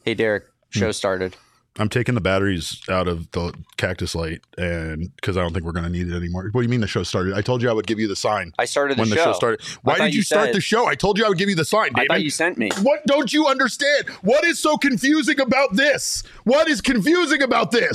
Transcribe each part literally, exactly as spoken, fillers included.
Hey, Derek, show started. I'm taking the batteries out of the Cactus Light, and because I don't think we're going to need it anymore. What do you mean the show started? I told you I would give you the sign. I started the when show. the show started. Why did you, you start said, the show? I told you I would give you the sign, David. I thought you sent me. What don't you understand? What is so confusing about this? What is confusing about this?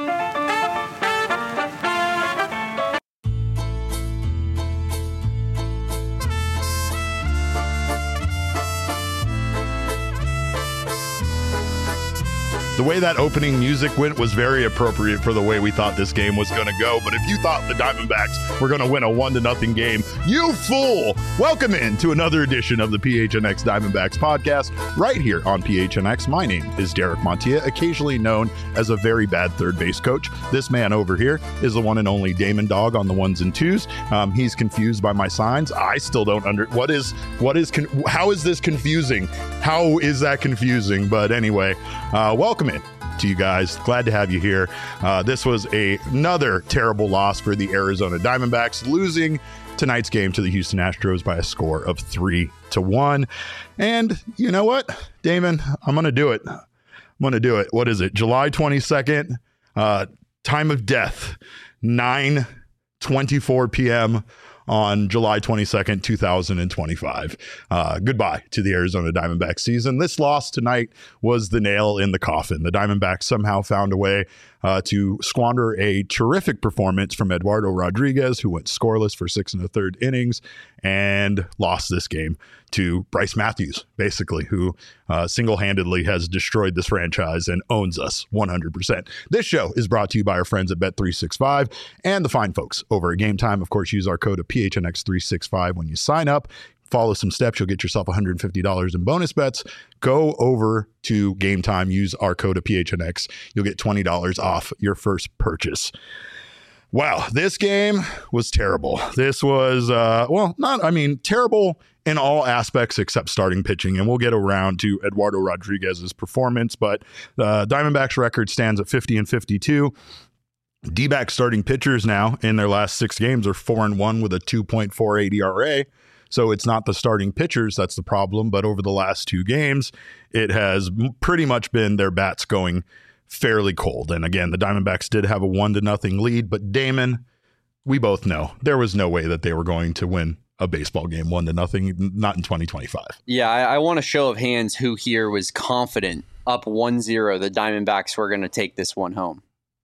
The way that opening music went was very appropriate for the way we thought this game was going to go. But if you thought the Diamondbacks were going to win a one to nothing game, you fool! Welcome in to another edition of the P H N X Diamondbacks podcast right here on P H N X. My name is Derek Montilla, occasionally known as a very bad third base coach. This man over here is the one and only Damon Dog on the ones and twos. Um, he's confused by my signs. I still don't under what is what is con- how is this confusing? How is that confusing? But anyway, uh, welcome in to you guys. Glad to have you here. Uh, this was a, another terrible loss for the Arizona Diamondbacks, losing tonight's game to the Houston Astros by a score of three to one. And you know what, Damon, I'm going to do it. I'm going to do it. What is it? July twenty-second, uh, time of death, nine twenty-four p.m. on July twenty-second, two thousand twenty-five. Uh, goodbye to the Arizona Diamondbacks season. This loss tonight was the nail in the coffin. The Diamondbacks somehow found a way uh, to squander a terrific performance from Eduardo Rodriguez, who went scoreless for six and a third innings and lost this game to Bryce Matthews, basically, who uh, single-handedly has destroyed this franchise and owns us one hundred percent. This show is brought to you by our friends at Bet three sixty-five and the fine folks over at Game Time. Of course, use our code of P H N X three sixty-five when you sign up. Follow some steps. You'll get yourself one hundred fifty dollars in bonus bets. Go over to Game Time. Use our code of P H N X. You'll get twenty dollars off your first purchase. Wow, this game was terrible. This was, uh, well, not, I mean, terrible in all aspects except starting pitching. And we'll get around to Eduardo Rodriguez's performance. But the uh, Diamondbacks record stands at fifty and fifty-two. D-back starting pitchers now in their last six games are four and one with a two point four eight E R A. So it's not the starting pitchers that's the problem, but over the last two games, it has pretty much been their bats going fairly cold. And again, the Diamondbacks did have a one to nothing lead, but Damon, we both know there was no way that they were going to win a baseball game one to nothing, not in twenty twenty-five. Yeah, I, I want a show of hands who here was confident up one zero the Diamondbacks were going to take this one home.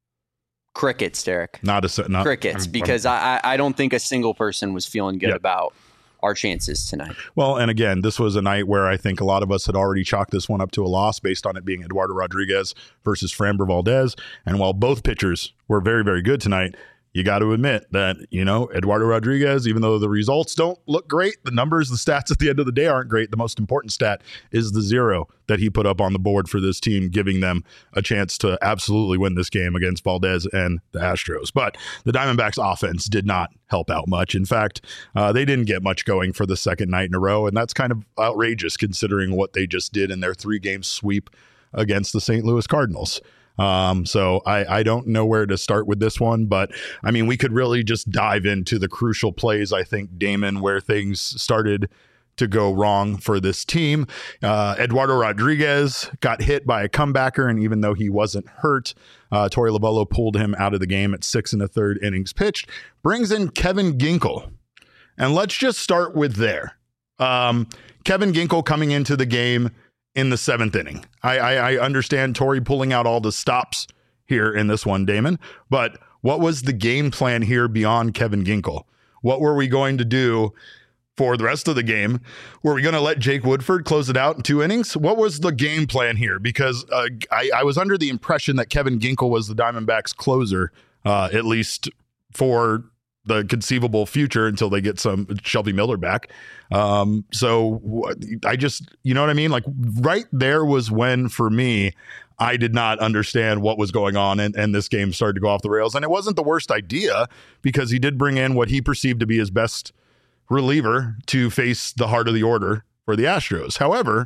Crickets, Derek. Not a not, crickets, I'm, because I'm, I I don't think a single person was feeling good yep. about our chances tonight. Well, and again, this was a night where I think a lot of us had already chalked this one up to a loss based on it being Eduardo Rodriguez versus Framber Valdez. And while both pitchers were very, very good tonight, you got to admit that, you know, Eduardo Rodriguez, even though the results don't look great, the numbers, the stats at the end of the day aren't great. The most important stat is the zero that he put up on the board for this team, giving them a chance to absolutely win this game against Valdez and the Astros. But the Diamondbacks offense did not help out much. In fact, uh, they didn't get much going for the second night in a row. And that's kind of outrageous considering what they just did in their three game sweep against the Saint Louis Cardinals. Um, so I, I don't know where to start with this one, but I mean, we could really just dive into the crucial plays, I think, Damon, where things started to go wrong for this team. Uh, Eduardo Rodriguez got hit by a comebacker, and even though he wasn't hurt, uh, Torey Lovullo pulled him out of the game at six and a third innings pitched, brings in Kevin Ginkel. And let's just start with there. Um, Kevin Ginkel coming into the game in the seventh inning. I, I, I understand Torey pulling out all the stops here in this one, Damon, but what was the game plan here beyond Kevin Ginkel? What were we going to do for the rest of the game? Were we going to let Jake Woodford close it out in two innings? What was the game plan here? Because uh, I, I was under the impression that Kevin Ginkel was the Diamondbacks closer, uh, at least for the conceivable future until they get some Shelby Miller back. Um, so I just, you know what I mean? Like right there was when, for me, I did not understand what was going on, and, and this game started to go off the rails. And it wasn't the worst idea because he did bring in what he perceived to be his best reliever to face the heart of the order for the Astros. However,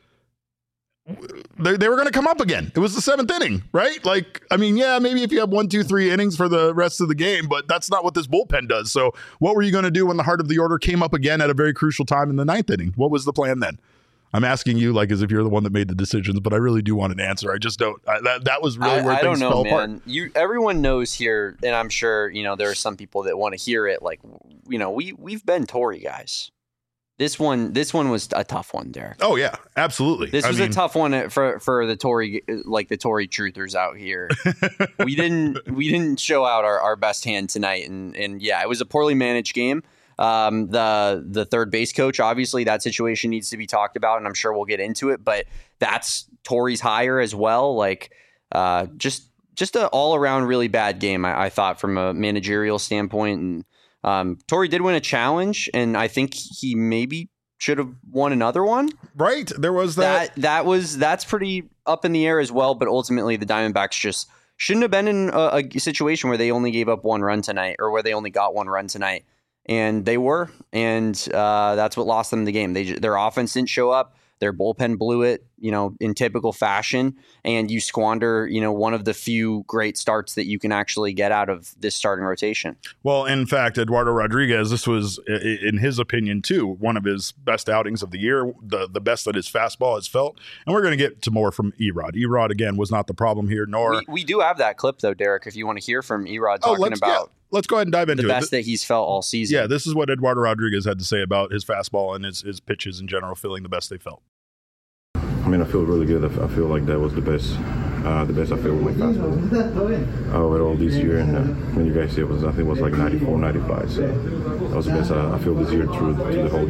they, they were going to come up again. It was the seventh inning, right? Like, I mean, yeah, maybe if you have one, two, three innings for the rest of the game, but that's not what this bullpen does. So what were you going to do when the heart of the order came up again at a very crucial time in the ninth inning? What was the plan then? I'm asking you like as if you're the one that made the decisions, but I really do want an answer. I just don't. I, that that was really I, where I things don't know, fell man. apart. You, everyone knows here, and I'm sure you know there are some people that want to hear it. Like, you know, we we've been Tory guys. This one, this one was a tough one, Derek. Oh yeah, absolutely. This I was mean, a tough one for for the Tory, like the Tory truthers out here. we didn't we didn't show out our, our best hand tonight, and and yeah, it was a poorly managed game. Um, the the third base coach, obviously, that situation needs to be talked about, and I'm sure we'll get into it. But that's Tory's hire as well. Like, uh, just just an all around really bad game, I, I thought, from a managerial standpoint. And um, Tory did win a challenge, and I think he maybe should have won another one. Right, there was that. That that was that's pretty up in the air as well. But ultimately, the Diamondbacks just shouldn't have been in a, a situation where they only gave up one run tonight, or where they only got one run tonight. And they were, and uh, that's what lost them the game. They their offense didn't show up. Their bullpen blew it, you know, in typical fashion, and you squander, you know, one of the few great starts that you can actually get out of this starting rotation. Well, in fact, Eduardo Rodriguez, this was, in his opinion, too, one of his best outings of the year, the, the best that his fastball has felt. And we're going to get to more from Erod. Erod, again, was not the problem here, nor... We, we do have that clip, though, Derek, if you want to hear from Erod talking oh, let's, about... Yeah. Let's go ahead and dive into the it. best that he's felt all season. Yeah, this is what Eduardo Rodriguez had to say about his fastball and his, his pitches in general, feeling the best they felt. I mean, I feel really good. I feel like that was the best, uh, the best I feel with my fastball overall this year. And uh, when you guys see it, was I think it was like ninety-four, ninety-five. So that was the best I, I feel this year through, through the whole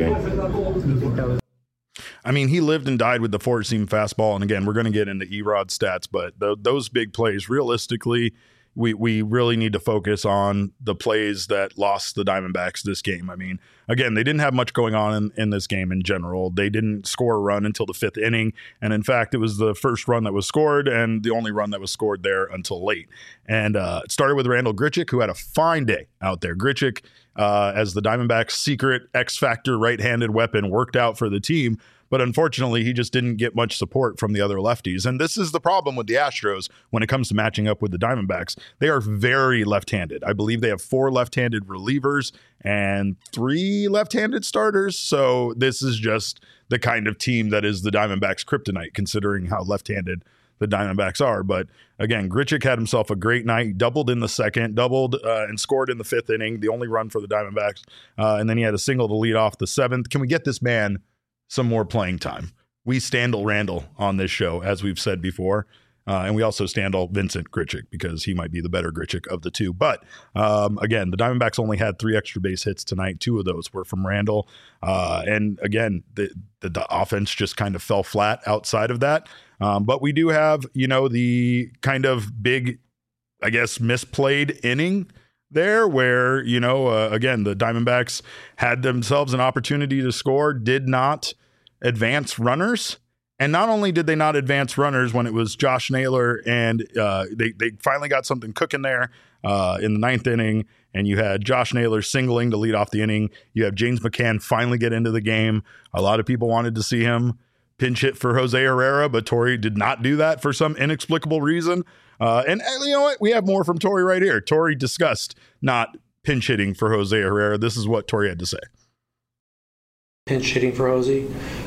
game. I mean, he lived and died with the four-seam fastball. And again, we're going to get into Erod stats, but th- those big plays, realistically, we we really need to focus on the plays that lost the Diamondbacks this game. I mean, again, they didn't have much going on in, in this game in general. They didn't score a run until the fifth inning. And in fact, it was the first run that was scored and the only run that was scored there until late. And uh, it started with Randal Grichuk, who had a fine day out there. Grichuk, uh, as the Diamondbacks' secret X-Factor right-handed weapon, worked out for the team. But unfortunately, he just didn't get much support from the other lefties. And this is the problem with the Astros when it comes to matching up with the Diamondbacks. They are very left-handed. I believe they have four left-handed relievers and three left-handed starters. So this is just the kind of team that is the Diamondbacks' kryptonite, considering how left-handed the Diamondbacks are. But again, Grichuk had himself a great night, doubled in the second, doubled uh, and scored in the fifth inning, the only run for the Diamondbacks. Uh, and then he had a single to lead off the seventh. Can we get this man some more playing time? We Standal Randall on this show, as we've said before. Uh, and we also Standal Vincent Grichuk because he might be the better Grichuk of the two. But um, again, the Diamondbacks only had three extra base hits tonight. Two of those were from Randall. Uh, and again, the, the, the offense just kind of fell flat outside of that. Um, but we do have, you know, the kind of big, I guess, misplayed inning there where, you know, uh, again, the Diamondbacks had themselves an opportunity to score, did not advance runners. And not only did they not advance runners when it was Josh Naylor and uh, they, they finally got something cooking there uh, in the ninth inning, and you had Josh Naylor singling to lead off the inning. You have James McCann finally get into the game. A lot of people wanted to see him pinch hit for Jose Herrera, but Tory did not do that for some inexplicable reason. Uh, and, and you know what? We have more from Tory right here. Tory discussed not pinch hitting for Jose Herrera. This is what Tory had to say. Pinch hitting for Jose?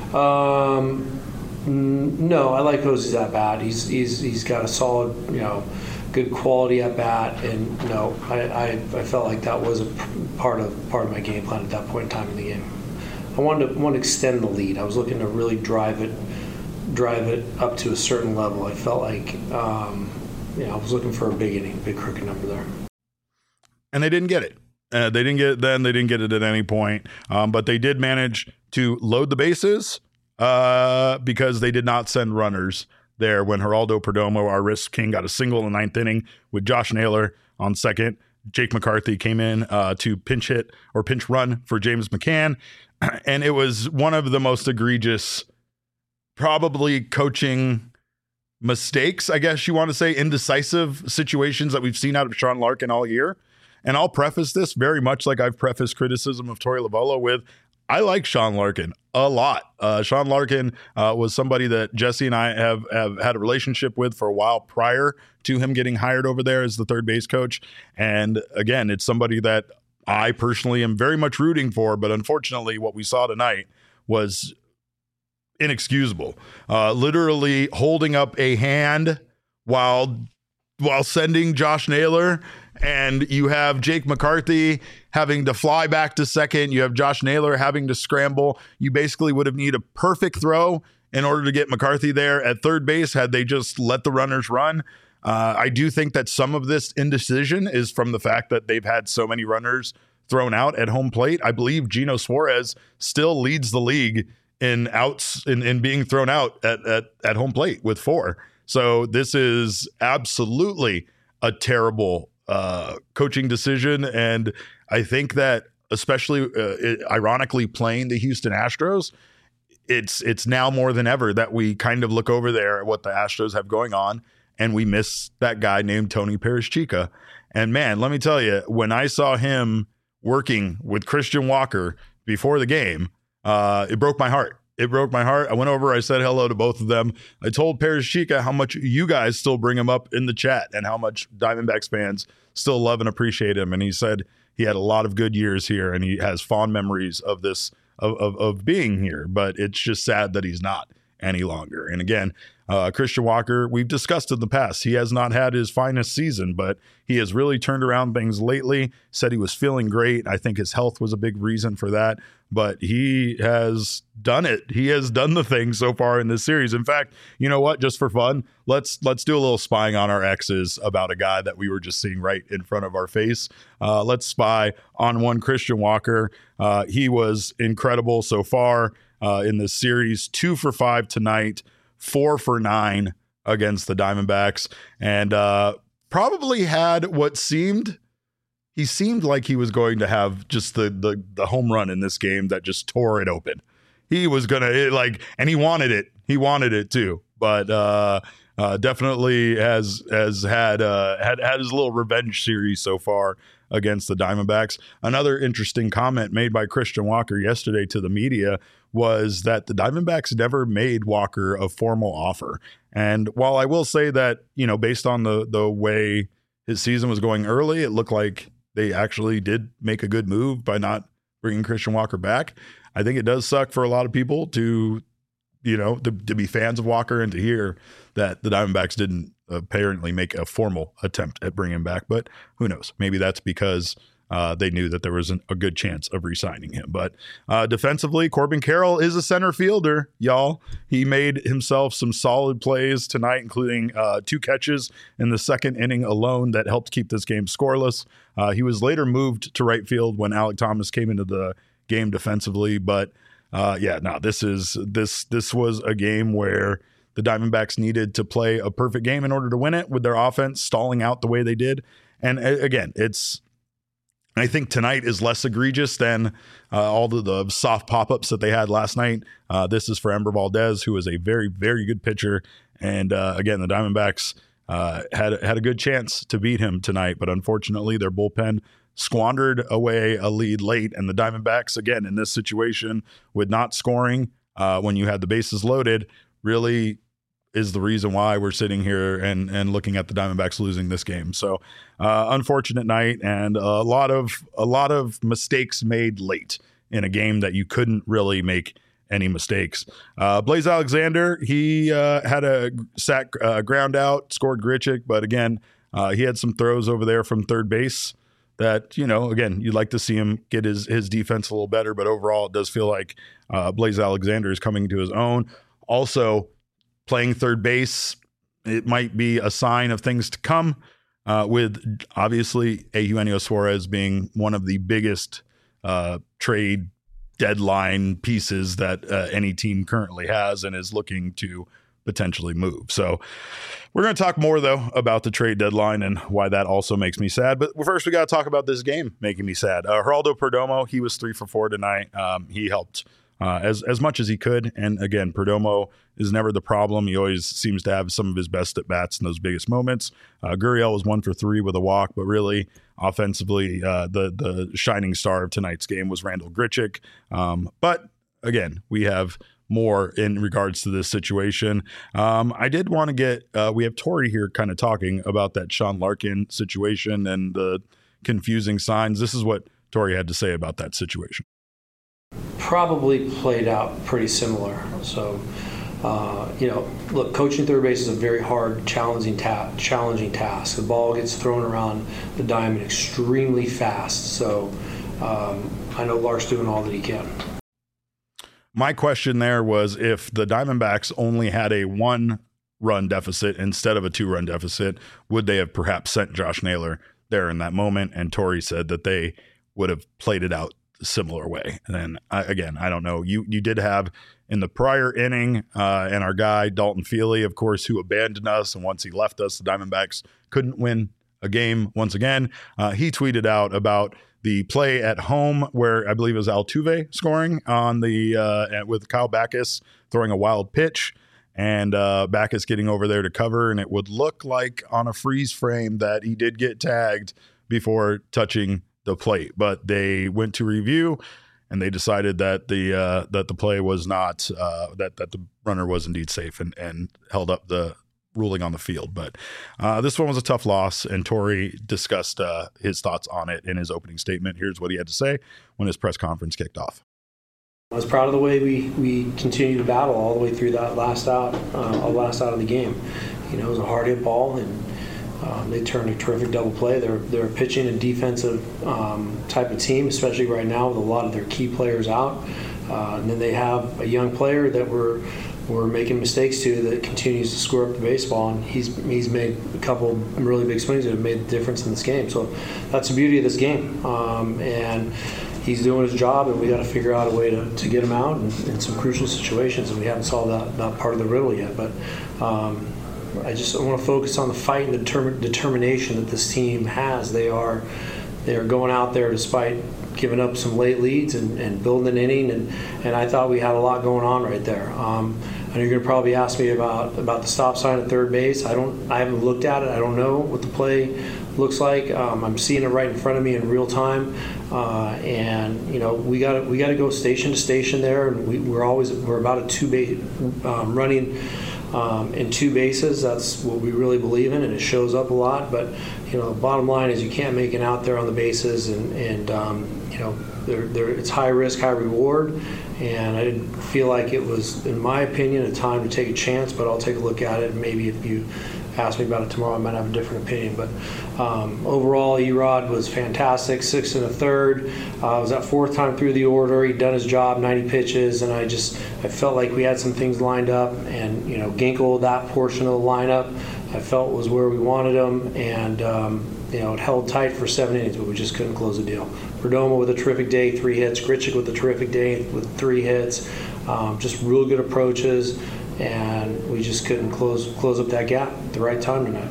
Um, no, I like Jose's at bat. He's he's he's got a solid, you know, good quality at bat, and you know, I, I, I felt like that was a part of part of my game plan at that point in time in the game. I wanted to want to extend the lead. I was looking to really drive it, drive it up to a certain level. I felt like, um, you know, I was looking for a big inning, big crooked number there. And they didn't get it. Uh, they didn't get it then. They didn't get it at any point. Um, but they did manage to load the bases uh, because they did not send runners there when Geraldo Perdomo, our risk king, got a single in the ninth inning with Josh Naylor on second. Jake McCarthy came in uh, to pinch hit or pinch run for James McCann. And it was one of the most egregious, probably coaching mistakes, I guess you want to say, indecisive situations that we've seen out of Sean Larkin all year. And I'll preface this very much like I've prefaced criticism of Torey Lovullo with, I like Sean Larkin a lot. Uh, Sean Larkin uh, was somebody that Jesse and I have, have had a relationship with for a while prior to him getting hired over there as the third base coach. And again, it's somebody that I personally am very much rooting for, but unfortunately what we saw tonight was inexcusable. Uh, literally holding up a hand while while sending Josh Naylor, and you have Jake McCarthy having to fly back to second. You have Josh Naylor having to scramble. You basically would have needed a perfect throw in order to get McCarthy there at third base had they just let the runners run. Uh, I do think that some of this indecision is from the fact that they've had so many runners thrown out at home plate. I believe Gino Suarez still leads the league in outs in, in being thrown out at, at, at home plate with four. So this is absolutely a terrible uh, coaching decision. And I think that especially uh, it, ironically playing the Houston Astros, it's it's now more than ever that we kind of look over there at what the Astros have going on and we miss that guy named Tony Perez-Chica. And man, let me tell you, when I saw him working with Christian Walker before the game, uh, it broke my heart. It broke my heart. I went over, I said hello to both of them. I told Perez-Chica how much you guys still bring him up in the chat and how much Diamondbacks fans still love and appreciate him. And he said he had a lot of good years here and he has fond memories of this, of, of, of being here. But it's just sad that he's not any longer. And again, uh, Christian Walker, we've discussed in the past, he has not had his finest season, but he has really turned around things lately, said he was feeling great. I think his health was a big reason for that, but he has done it. He has done the thing so far in this series. In fact, you know what, just for fun, let's let's do a little spying on our exes about a guy that we were just seeing right in front of our face. Uh, let's spy on one Christian Walker. Uh, he was incredible so far uh, in this series, two for five tonight, four for nine against the Diamondbacks, and uh, probably had what seemed, he seemed like he was going to have just the, the, the home run in this game that just tore it open. He was going to like, and he wanted it. He wanted it too, but uh, uh, definitely has, has had, uh, had, had his little revenge series so far against the Diamondbacks. Another interesting comment made by Christian Walker yesterday to the media was that the Diamondbacks never made Walker a formal offer. And while I will say that, you know, based on the the way his season was going early, it looked like they actually did make a good move by not bringing Christian Walker back. I think it does suck for a lot of people to, you know, to, to be fans of Walker and to hear that the Diamondbacks didn't apparently make a formal attempt at bringing him back. But who knows? Maybe that's because Uh, they knew that there was an, a good chance of re-signing him. But uh, defensively, Corbin Carroll is a center fielder, y'all. He made himself some solid plays tonight, including uh, two catches in the second inning alone that helped keep this game scoreless. Uh, he was later moved to right field when Alek Thomas came into the game defensively. But uh, yeah, no, this is this this was a game where the Diamondbacks needed to play a perfect game in order to win it, with their offense stalling out the way they did. And uh, again, it's I think tonight is less egregious than uh, all the, the soft pop-ups that they had last night. Uh, this is for Ember Valdez, who is a very, very good pitcher. And uh, again, the Diamondbacks uh, had, had a good chance to beat him tonight, but unfortunately their bullpen squandered away a lead late. And the Diamondbacks, again, in this situation with not scoring uh, when you had the bases loaded, really is the reason why we're sitting here and and looking at the Diamondbacks losing this game. So uh, unfortunate night, and a lot of a lot of mistakes made late in a game that you couldn't really make any mistakes. Uh, Blaze Alexander, he uh, had a sack uh, ground out, scored Grichuk, but again, uh, he had some throws over there from third base that, you know, again, you'd like to see him get his his defense a little better, but overall it does feel like uh, Blaze Alexander is coming to his own. Also, playing third base, it might be a sign of things to come, uh, with obviously Eugenio Suarez being one of the biggest uh, trade deadline pieces that uh, any team currently has and is looking to potentially move. So we're going to talk more, though, about the trade deadline and why that also makes me sad. But first, we got to talk about this game making me sad. Uh, Geraldo Perdomo, he was three for four tonight. Um, he helped Uh, as as much as he could. And again, Perdomo is never the problem. He always seems to have some of his best at bats in those biggest moments. Uh, Gurriel was one for three with a walk, but really offensively, uh, the the shining star of tonight's game was Randal Grichuk. Um, but again, we have more in regards to this situation. Um, I did want to get, uh, we have Tori here kind of talking about that Sean Larkin situation and the confusing signs. This is what Tori had to say about that situation. probably played out pretty similar. So, uh, you know, look, coaching third base is a very hard, challenging, ta- challenging task. The ball gets thrown around the diamond extremely fast. So um, I know Lark's doing all that he can. My question there was, if the Diamondbacks only had a one run deficit instead of a two run deficit, would they have perhaps sent Josh Naylor there in that moment? And Torey said that they would have played it out a similar way. And then I, again, I don't know. You you did have in the prior inning, uh, and our guy Dalton Feely, of course, who abandoned us, and once he left us, the Diamondbacks couldn't win a game once again. Uh, he tweeted out about the play at home where I believe it was Altuve scoring on the uh, with Kyle Backus throwing a wild pitch, and uh, Backus getting over there to cover, and it would look like on a freeze frame that he did get tagged before touching the plate, but they went to review and they decided that the uh, that the play was not uh, that that the runner was indeed safe, and and held up the ruling on the field. But uh, this one was a tough loss, and Torey discussed uh, his thoughts on it in his opening statement. Here's what he had to say when his press conference kicked off. I was proud of the way we, we continued to battle all the way through that last out, uh, last out of the game. You know, it was a hard hit ball, and um, they turned a terrific double play. They're they're pitching a defensive um, type of team, especially right now with a lot of their key players out. Uh, and then they have a young player that we're we're making mistakes to that continues to score up the baseball, and he's he's made a couple really big swings that have made the difference in this game. So that's the beauty of this game, um, and he's doing his job, and we got to figure out a way to, to get him out in, in some crucial situations, and we haven't solved that, that part of the riddle yet. But um, I just want to focus on the fight and the determin- determination that this team has. They are they are going out there despite giving up some late leads and, and building an inning, and, and I thought we had a lot going on right there. Um, I know you're going to probably ask me about, about the stop sign at third base. I don't. I haven't looked at it. I don't know what the play looks like. Um, I'm seeing it right in front of me in real time, uh, and you know we got we got to go station to station there, and we, we're always we're about a two base um, running um, in two bases. That's what we really believe in, and it shows up a lot. But you know, the bottom line is you can't make it out there on the bases, and and um, you know they're, they're, it's high risk, high reward. And I didn't feel like it was, in my opinion, a time to take a chance, but I'll take a look at it. And maybe if you ask me about it tomorrow, I might have a different opinion. But um, overall, Erod was fantastic, six and a third. Uh, it was that fourth time through the order. He'd done his job, ninety pitches, and I just I felt like we had some things lined up. And, you know, Ginkel, that portion of the lineup, I felt was where we wanted him. And, um, you know, it held tight for seven innings, but we just couldn't close the deal. Perdomo with a terrific day, three hits. Grichuk with a terrific day with three hits. Um, just real good approaches, and we just couldn't close close up that gap at the right time tonight.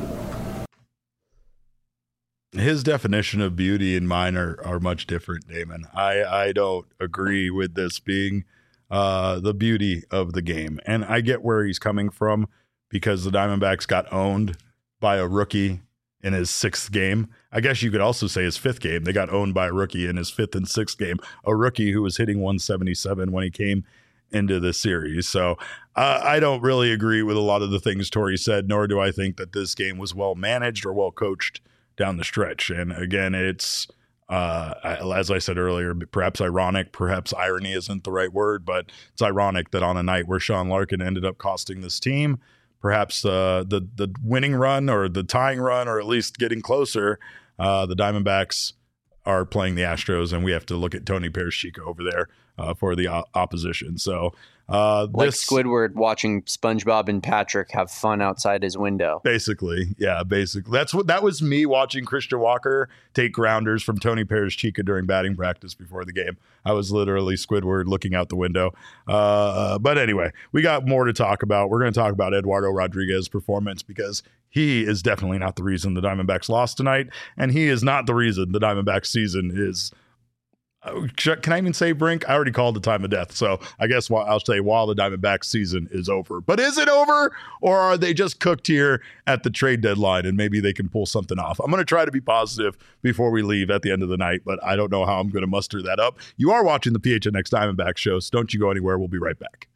His definition of beauty and mine are, are much different, Damon. I, I don't agree with this being uh, the beauty of the game. And I get where he's coming from, because the Diamondbacks got owned by a rookie in his sixth game. I guess you could also say his fifth game. They got owned by a rookie in his fifth and sixth game, a rookie who was hitting one seventy-seven when he came into the series. So uh, I don't really agree with a lot of the things Torey said, nor do I think that this game was well managed or well coached down the stretch. And again, it's, uh, as I said earlier, perhaps ironic, perhaps irony isn't the right word, but it's ironic that on a night where Sean Larkin ended up costing this team perhaps uh, the the winning run or the tying run, or at least getting closer, uh, the Diamondbacks are playing the Astros, and we have to look at Tony Perez-Chico over there uh, for the o- opposition. So uh, like this, Squidward watching SpongeBob and Patrick have fun outside his window. Basically, yeah, basically. That's what that was me watching Christian Walker take grounders from Tony Perez-Chico during batting practice before the game. I was literally Squidward looking out the window. Uh, but anyway, we got more to talk about. We're going to talk about Eduardo Rodriguez's performance, because he is definitely not the reason the Diamondbacks lost tonight, and he is not the reason the Diamondbacks season is. Can I even say brink? I already called the time of death. So I guess I'll say while the Diamondbacks season is over. But is it over, or are they just cooked here at the trade deadline and maybe they can pull something off? I'm going to try to be positive before we leave at the end of the night, but I don't know how I'm going to muster that up. You are watching the P H N X Diamondbacks show, so don't you go anywhere. We'll be right back.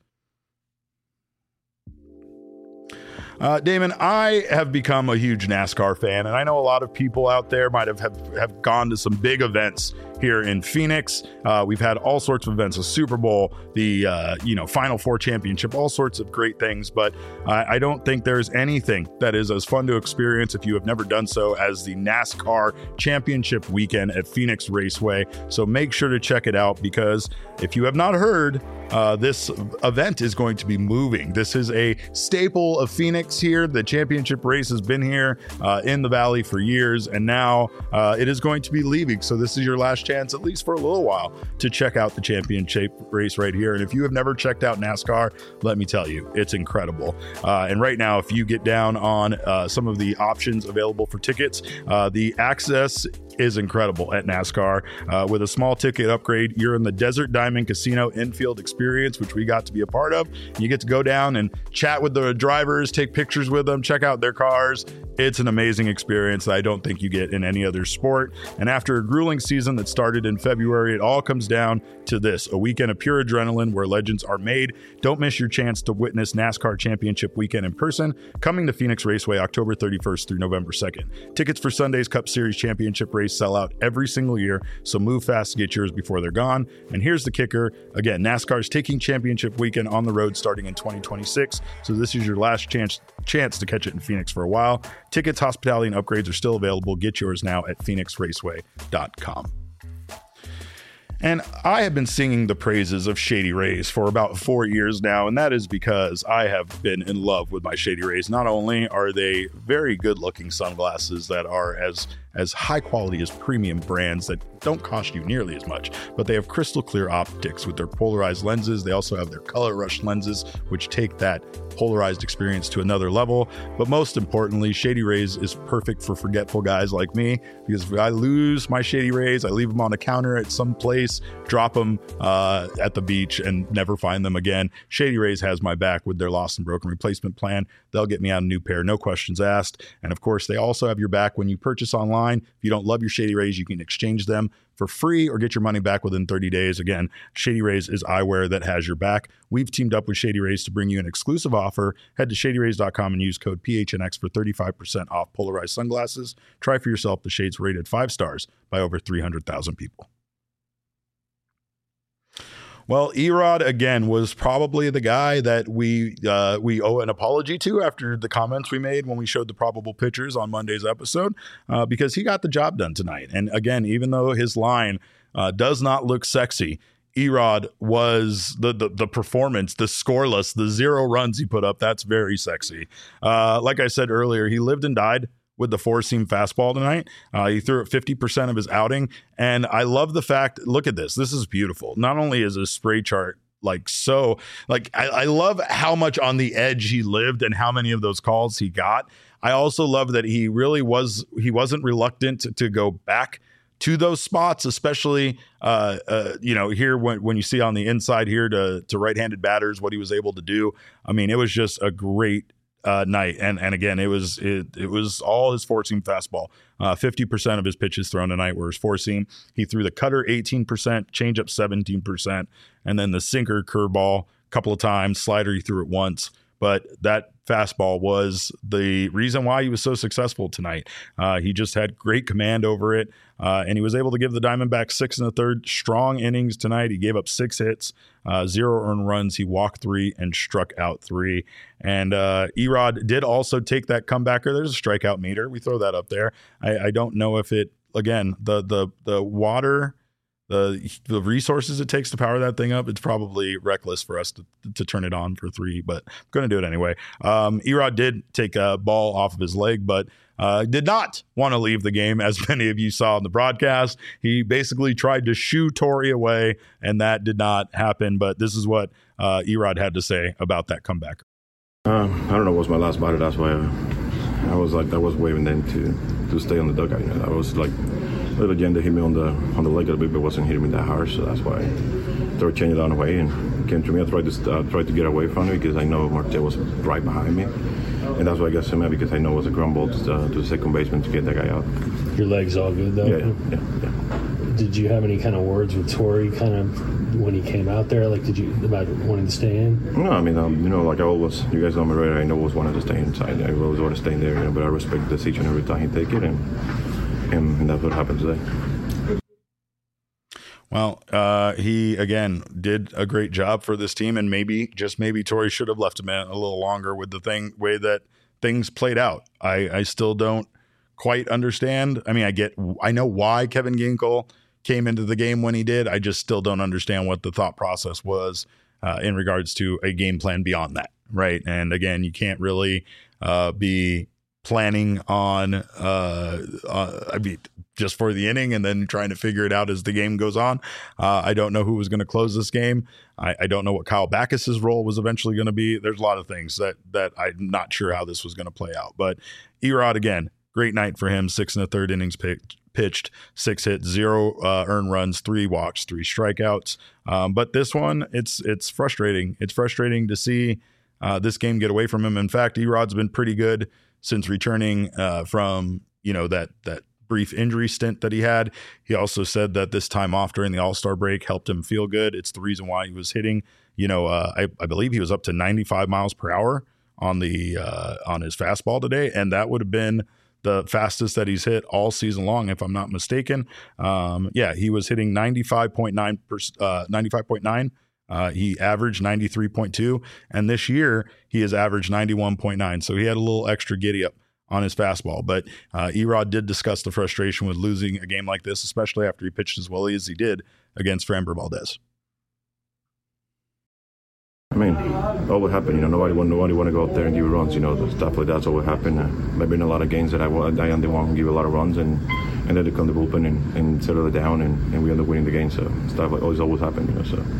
Uh, Damon, I have become a huge NASCAR fan, and I know a lot of people out there might have, have, have gone to some big events here in Phoenix. Uh, we've had all sorts of events, a Super Bowl, the uh, you know Final Four championship, all sorts of great things. But I, I don't think there's anything that is as fun to experience if you have never done so as the NASCAR Championship Weekend at Phoenix Raceway. So make sure to check it out, because if you have not heard, uh, this event is going to be moving. This is a staple of Phoenix here. The championship race has been here uh, in the Valley for years, and now uh, it is going to be leaving. So this is your last chance, at least for a little while, to check out the championship race right here. And if you have never checked out NASCAR, let me tell you, it's incredible. Uh, and right now, if you get down on uh, some of the options available for tickets, uh, the access is incredible at NASCAR. Uh, with a small ticket upgrade, you're in the Desert Diamond Casino infield experience, which we got to be a part of. You get to go down and chat with the drivers, take pictures with them, check out their cars. It's an amazing experience that I don't think you get in any other sport. And after a grueling season that started in February, it all comes down to this: a weekend of pure adrenaline where legends are made. Don't miss your chance to witness NASCAR Championship Weekend in person, coming to Phoenix Raceway October thirty-first through November second. Tickets for Sunday's Cup Series Championship race sell out every single year, so move fast to get yours before they're gone. And here's the kicker. Again, NASCAR is taking Championship Weekend on the road starting in twenty twenty-six, so this is your last chance chance to catch it in Phoenix for a while. Tickets, hospitality, and upgrades are still available. Get yours now at phoenix raceway dot com. And I have been singing the praises of Shady Rays for about four years now, and that is because I have been in love with my Shady Rays. Not only are they very good-looking sunglasses that are as as high quality as premium brands that don't cost you nearly as much, but they have crystal clear optics with their polarized lenses. They also have their color rush lenses, which take that polarized experience to another level. But most importantly, Shady Rays is perfect for forgetful guys like me, because if I lose my Shady Rays, I leave them on a counter at some place, drop them uh, at the beach, and never find them again. Shady Rays has my back with their lost and broken replacement plan. They'll get me out a new pair, no questions asked. And of course, they also have your back when you purchase online. If you don't love your Shady Rays, you can exchange them for free or get your money back within thirty days. Again, Shady Rays is eyewear that has your back. We've teamed up with Shady Rays to bring you an exclusive offer. Head to shady rays dot com and use code P H N X for thirty-five percent off polarized sunglasses. Try for yourself the shades rated five stars by over three hundred thousand people. Well, Erod, again, was probably the guy that we uh, we owe an apology to after the comments we made when we showed the probable pitchers on Monday's episode, uh, because he got the job done tonight. And again, even though his line uh, does not look sexy, Erod was the, the the performance, the scoreless, the zero runs he put up. That's very sexy. Uh, like I said earlier, he lived and died with the four-seam fastball tonight. Uh, he threw it fifty percent of his outing. And I love the fact, look at this. This is beautiful. Not only is his spray chart like so, like I, I love how much on the edge he lived and how many of those calls he got. I also love that he really was, he wasn't reluctant to, to go back to those spots, especially, uh, uh, you know, here when, when you see on the inside here to, to right-handed batters, what he was able to do. I mean, it was just a great Uh, night. And and again, it was it it was all his four-seam fastball. Uh, fifty percent of his pitches thrown tonight were his four-seam. He threw the cutter eighteen percent, changeup seventeen percent, and then the sinker, curveball a couple of times, slider he threw it once. But that fastball was the reason why he was so successful tonight. Uh, he just had great command over it, uh, and he was able to give the Diamondbacks six and a third strong innings tonight. He gave up six hits, uh, zero earned runs. He walked three and struck out three. And uh, Erod did also take that comebacker. There's a strikeout meter. We throw that up there. I, I don't know if it, again, the the the water, the the resources it takes to power that thing up, it's probably reckless for us to, to turn it on for three, but I'm going to do it anyway. Um, Erod did take a ball off of his leg, but uh, did not want to leave the game, as many of you saw in the broadcast. He basically tried to shoo Torey away, and that did not happen. But this is what uh, Erod had to say about that comeback. Um, I don't know. It was my last batter. That's why I, I was like, I was waving them to to stay on the dugout. You know, I was like. Little agenda hit me on the on the leg a little bit, but wasn't hitting me that hard, so that's why I started changing it on the way and came to me. I tried to uh, tried to get away from it because I know Marte was right behind me, and that's why I got so mad because I know it was a ground ball to, uh, to the second baseman to get that guy out. Your leg's all good though. Yeah, yeah, yeah. yeah. Did you have any kind of words with Torey, kind of when he came out there? Like, did you about wanting to stay in? No, I mean, um, you know, like I always, you guys know me right. I know always wanted to stay inside. I always want to stay in there, you know, but I respect the decision every time he take it, and. And that's what happened today. Well, uh, he, again, did a great job for this team, and maybe, just maybe, Torrey should have left him in a little longer with the thing way that things played out. I, I still don't quite understand. I mean, I get, I know why Kevin Ginkel came into the game when he did. I just still don't understand what the thought process was uh, in regards to a game plan beyond that, right? And again, you can't really uh, be planning on, uh, uh, I mean, just for the inning and then trying to figure it out as the game goes on. Uh, I don't know who was going to close this game. I, I don't know what Kyle Backus's role was eventually going to be. There's a lot of things that that I'm not sure how this was going to play out. But Erod, again, great night for him. Six and a third innings picked, pitched, six hits, zero uh, earned runs, three walks, three strikeouts. Um, but this one, it's it's frustrating. It's frustrating to see uh, this game get away from him. In fact, Erod's been pretty good since returning uh, from you know that that. brief injury stint that he had. He also said that this time off during the All-Star break helped him feel good. It's the reason why he was hitting, you know, uh, I, I believe he was up to ninety-five miles per hour on the uh, on his fastball today, and that would have been the fastest that he's hit all season long, if I'm not mistaken. Um, yeah, he was hitting ninety-five point nine percent, uh, ninety-five point nine. Uh, he averaged ninety-three point two, and this year he has averaged ninety-one point nine. So he had a little extra giddy up on his fastball. But uh, Erod did discuss the frustration with losing a game like this, especially after he pitched as well as he did against Framber Valdez. I mean, what would happen? You know, nobody want nobody want to go out there and give runs. You know, stuff like that's what would happen. Uh, maybe in a lot of games that I I didn't want to give a lot of runs, and and then they come to the bullpen and, and settle it down, and, and we end up winning the game. So stuff like always always happen. You know, so.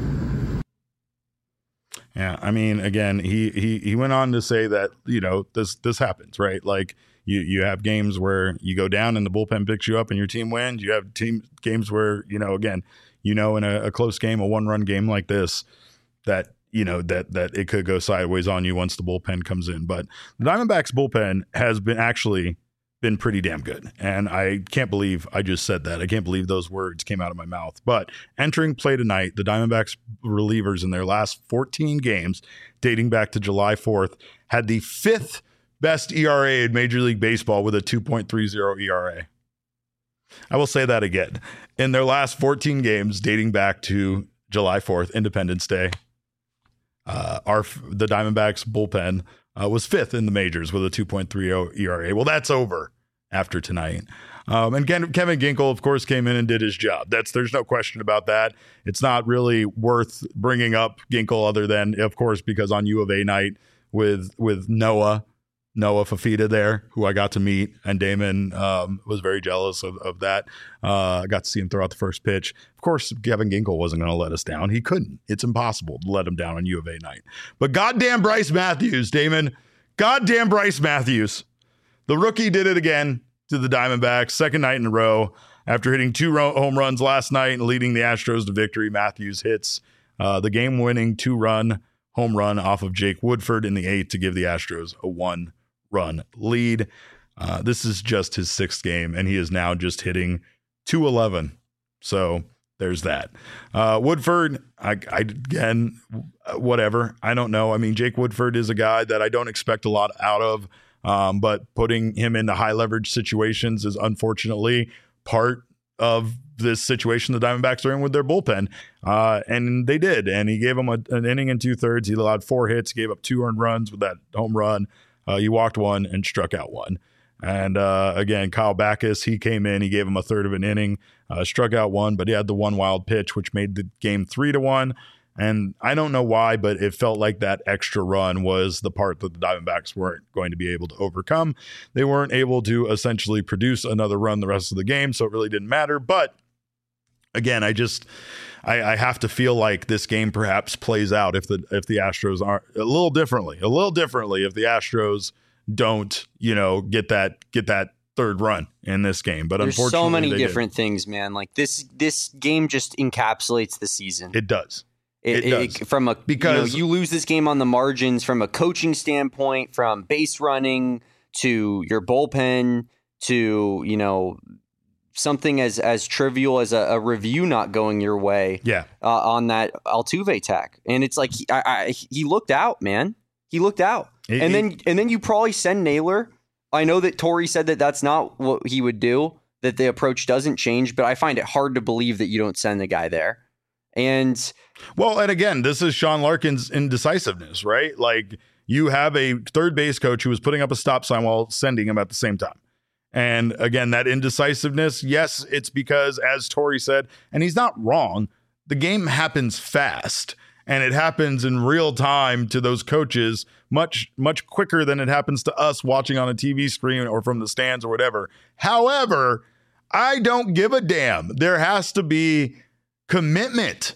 Yeah, I mean, again, he he he went on to say that, you know, this this happens, right? Like you you have games where you go down and the bullpen picks you up and your team wins. You have team games where, you know, again, you know, in a, a close game, a one-run game like this, that, you know, that that it could go sideways on you once the bullpen comes in. But the Diamondbacks bullpen has been actually been pretty damn good. And I can't believe I just said that. I can't believe those words came out of my mouth. But entering play tonight, the Diamondbacks relievers in their last fourteen games, dating back to July fourth, had the fifth best E R A in Major League Baseball with a two point three oh E R A. I will say that again. In their last fourteen games, dating back to July fourth, Independence Day, uh, our the Diamondbacks bullpen Uh, was fifth in the majors with a two point three oh E R A. Well, that's over after tonight. Um, and Ken, Kevin Ginkel, of course, came in and did his job. That's there's no question about that. It's not really worth bringing up Ginkel other than, of course, because on U of A night with with Noah, Noah Fafita there, who I got to meet, and Damon um, was very jealous of, of that. Uh, I got to see him throw out the first pitch. Of course, Kevin Ginkel wasn't going to let us down. He couldn't. It's impossible to let him down on U of A night. But goddamn Bryce Matthews, Damon. Goddamn Bryce Matthews. The rookie did it again to the Diamondbacks, second night in a row. After hitting two ro- home runs last night and leading the Astros to victory, Matthews hits uh, the game-winning two-run home run off of Jake Woodford in the eighth to give the Astros a one run lead. Uh, this is just his sixth game, and he is now just hitting two eleven. So there's that. Uh, Woodford, I, I again, whatever. I don't know. I mean, Jake Woodford is a guy that I don't expect a lot out of, um, but putting him into high leverage situations is unfortunately part of this situation the Diamondbacks are in with their bullpen. Uh, and they did. And he gave him a, an inning and two thirds. He allowed four hits, gave up two earned runs with that home run. Uh, he walked one and struck out one. And uh, again, Kyle Backus, he came in, he gave him a third of an inning, uh, struck out one, but he had the one wild pitch, which made the game three to one. And I don't know why, but it felt like that extra run was the part that the Diamondbacks weren't going to be able to overcome. They weren't able to essentially produce another run the rest of the game, so it really didn't matter. But again, I just I, I have to feel like this game perhaps plays out if the if the Astros are a little differently, a little differently if the Astros don't, you know, get that get that third run in this game. But there's unfortunately, so many they different did. things, man. Like this this game just encapsulates the season. It does. It, it does. It, from a because you, know, you lose this game on the margins from a coaching standpoint, from base running to your bullpen to, you know, something as as trivial as a, a review not going your way. Yeah. Uh, on that Altuve tack, and it's like he, I, I, he looked out, man. He looked out, it, and then it, and then you probably send Naylor. I know that Torrey said that that's not what he would do, that the approach doesn't change, but I find it hard to believe that you don't send the guy there. And well, and again, this is Sean Larkin's indecisiveness, right? Like, you have a third base coach who was putting up a stop sign while sending him at the same time. And again, that indecisiveness, yes, it's because, as Torey said, and he's not wrong, the game happens fast and it happens in real time to those coaches much, much quicker than it happens to us watching on a T V screen or from the stands or whatever. However, I don't give a damn. There has to be commitment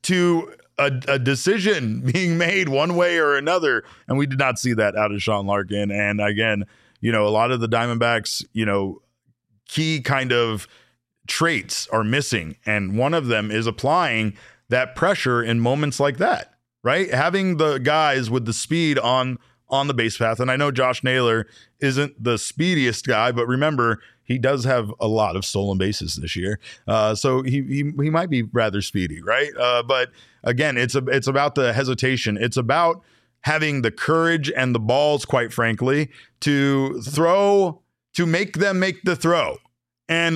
to a, a decision being made one way or another. And we did not see that out of Sean Larkin. And again, you know, a lot of the Diamondbacks, you know, key kind of traits are missing. And one of them is applying that pressure in moments like that, right? Having the guys with the speed on on the base path. And I know Josh Naylor isn't the speediest guy, but remember, he does have a lot of stolen bases this year. Uh, so he, he he might be rather speedy, right? Uh, but again, it's a, it's about the hesitation. It's about having the courage and the balls, quite frankly, to throw, to make them make the throw. And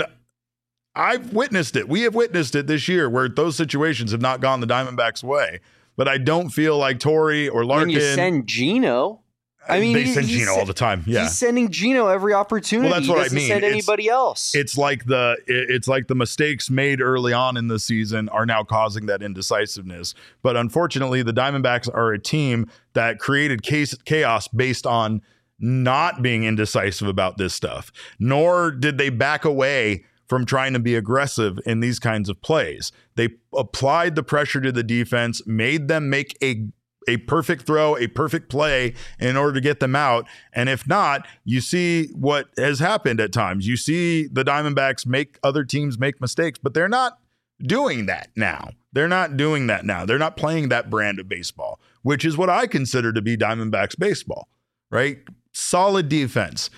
I've witnessed it. We have witnessed it this year where those situations have not gone the Diamondbacks' way. But I don't feel like Torey or Larkin. When you send Gino, I mean, they he, send Gino all the time. Yeah, he's sending Gino every opportunity. Well, that's what he doesn't I mean. Send anybody it's, else. It's like the it's like the mistakes made early on in the season are now causing that indecisiveness. But unfortunately, the Diamondbacks are a team that created chaos based on not being indecisive about this stuff. Nor did they back away from trying to be aggressive in these kinds of plays. They applied the pressure to the defense, made them make a a perfect throw, a perfect play in order to get them out. And if not, you see what has happened at times. You see the Diamondbacks make other teams make mistakes, but they're not doing that now. They're not doing that now. They're not playing that brand of baseball, which is what I consider to be Diamondbacks baseball, right? Solid defense,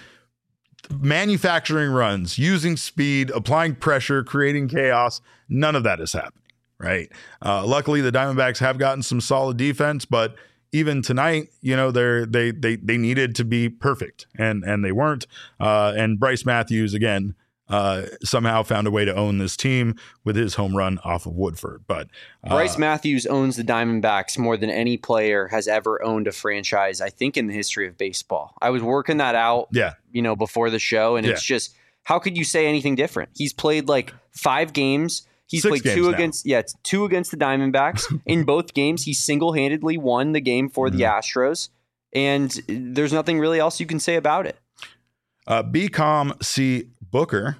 manufacturing runs, using speed, applying pressure, creating chaos. None of that is happening. Right. Uh, luckily, the Diamondbacks have gotten some solid defense, but even tonight, you know, they're they they they needed to be perfect, and and they weren't. Uh, and Bryce Matthews again uh, somehow found a way to own this team with his home run off of Woodford. But uh, Bryce Matthews owns the Diamondbacks more than any player has ever owned a franchise, I think, in the history of baseball. I was working that out, yeah, you know, before the show, and yeah. It's just, how could you say anything different? He's played like five games. He's Six played two now. against, yeah, it's two against the Diamondbacks. In both games, he single-handedly won the game for mm-hmm. the Astros, and there's nothing really else you can say about it. Uh, B COM C Booker,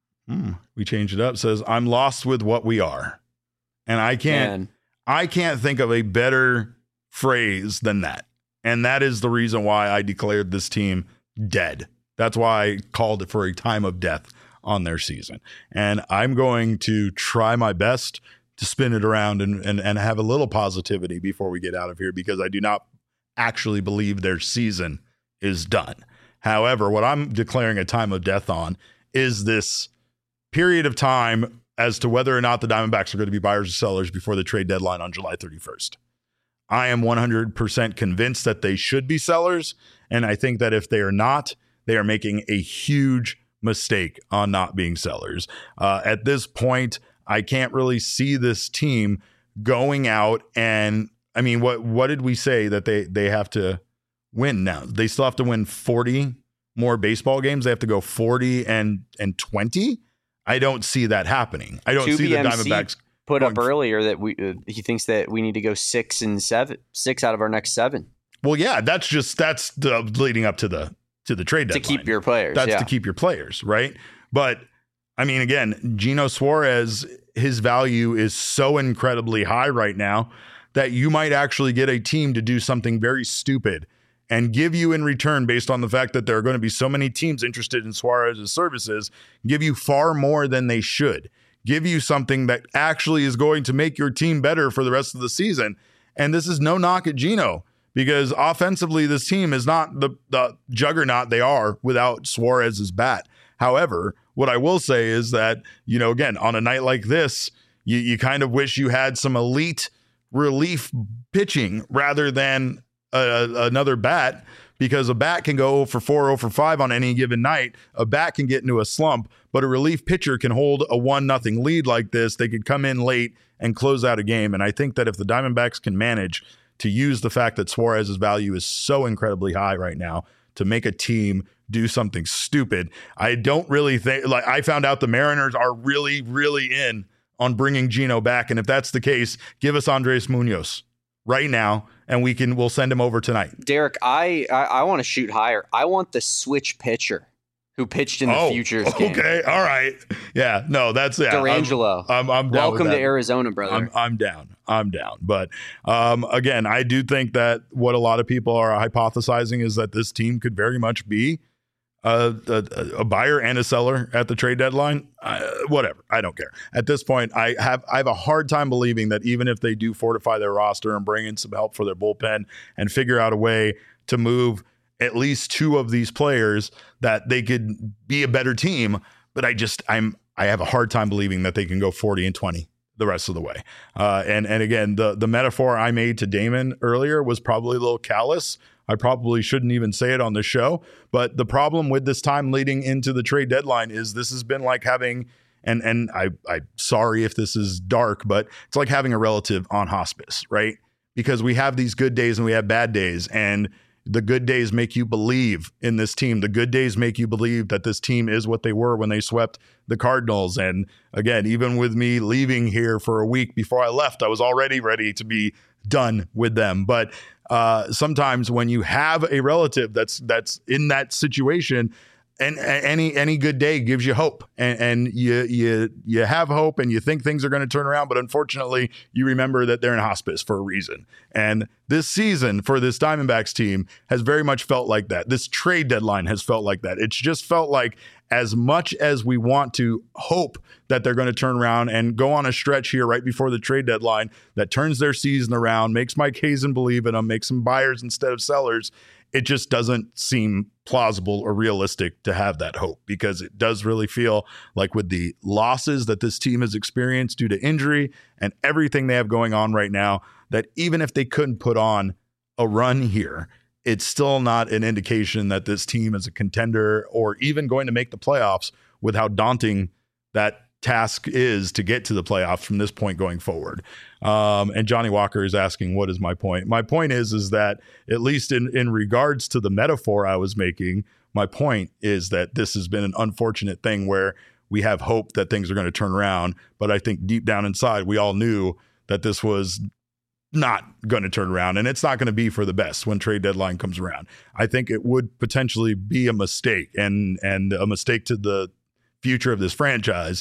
mm, we changed it up, says, "I'm lost with what we are," and I can't, Man. I can't think of a better phrase than that, and that is the reason why I declared this team dead. That's why I called it for a time of death on their season. And I'm going to try my best to spin it around and, and, and have a little positivity before we get out of here, because I do not actually believe their season is done. However, what I'm declaring a time of death on is this period of time as to whether or not the Diamondbacks are going to be buyers or sellers before the trade deadline on July thirty-first. I am one hundred percent convinced that they should be sellers. And I think that if they are not, they are making a huge mistake on not being sellers. Uh, at this point, I can't really see this team going out and, I mean, what what did we say that they they have to win now? They still have to win forty more baseball games. They have to go forty and and twenty. I don't see that happening. I don't two see B M C the Diamondbacks put up earlier that we uh, he thinks that we need to go six and seven, six out of our next seven. Well, yeah, that's just that's the leading up to the to the trade deadline. To keep your players. That's yeah. to keep your players, right? But, I mean, again, Gino Suarez, his value is so incredibly high right now that you might actually get a team to do something very stupid and give you in return, based on the fact that there are going to be so many teams interested in Suarez's services, give you far more than they should. Give you something that actually is going to make your team better for the rest of the season. And this is no knock at Gino, because offensively, this team is not the, the juggernaut they are without Suarez's bat. However, what I will say is that, you know, again, on a night like this, you, you kind of wish you had some elite relief pitching rather than a, a, another bat, because a bat can go oh for four, oh for five on any given night. A bat can get into a slump, but a relief pitcher can hold a one nothing lead like this. They could come in late and close out a game. And I think that if the Diamondbacks can manage to use the fact that Suarez's value is so incredibly high right now to make a team do something stupid, I don't really think, like, I found out the Mariners are really, really in on bringing Gino back. And if that's the case, give us Andres Munoz right now, and we can, we'll send him over tonight. Derek, I, I, I want to shoot higher. I want the switch pitcher who pitched in the oh, Futures game. Okay, all right. Yeah, no, that's yeah. Durangelo. I'm, I'm, I'm down. Welcome to Arizona, brother. I'm, I'm down. I'm down. But um, again, I do think that what a lot of people are hypothesizing is that this team could very much be a, a, a buyer and a seller at the trade deadline. Uh, whatever. I don't care. At this point, I have I have a hard time believing that even if they do fortify their roster and bring in some help for their bullpen and figure out a way to move at least two of these players, that they could be a better team. But I just, I'm, I have a hard time believing that they can go forty and twenty the rest of the way. Uh, and, and again, the, the metaphor I made to Damon earlier was probably a little callous. I probably shouldn't even say it on the show, but the problem with this time leading into the trade deadline is this has been like having, and, and I, I'm sorry if this is dark, but it's like having a relative on hospice, right? Because we have these good days and we have bad days, and the good days make you believe in this team. The good days make you believe that this team is what they were when they swept the Cardinals. And again, even with me leaving here for a week before I left, I was already ready to be done with them. But uh, sometimes when you have a relative that's that's in that situation, and any any good day gives you hope, and, and you you you have hope, and you think things are going to turn around. But unfortunately, you remember that they're in hospice for a reason. And this season for this Diamondbacks team has very much felt like that. This trade deadline has felt like that. It's just felt like, as much as we want to hope that they're going to turn around and go on a stretch here right before the trade deadline that turns their season around, makes Mike Hazen believe in them, makes them buyers instead of sellers, it just doesn't seem plausible or realistic to have that hope, because it does really feel like, with the losses that this team has experienced due to injury and everything they have going on right now, that even if they couldn't put on a run here, it's still not an indication that this team is a contender or even going to make the playoffs, with how daunting that task is to get to the playoffs from this point going forward. Um, and Johnny Walker is asking, what is my point? My point is, is that at least in, in regards to the metaphor I was making, my point is that this has been an unfortunate thing where we have hope that things are going to turn around. But I think deep down inside, we all knew that this was not going to turn around, and it's not going to be for the best when trade deadline comes around. I think it would potentially be a mistake, and and a mistake to the future of this franchise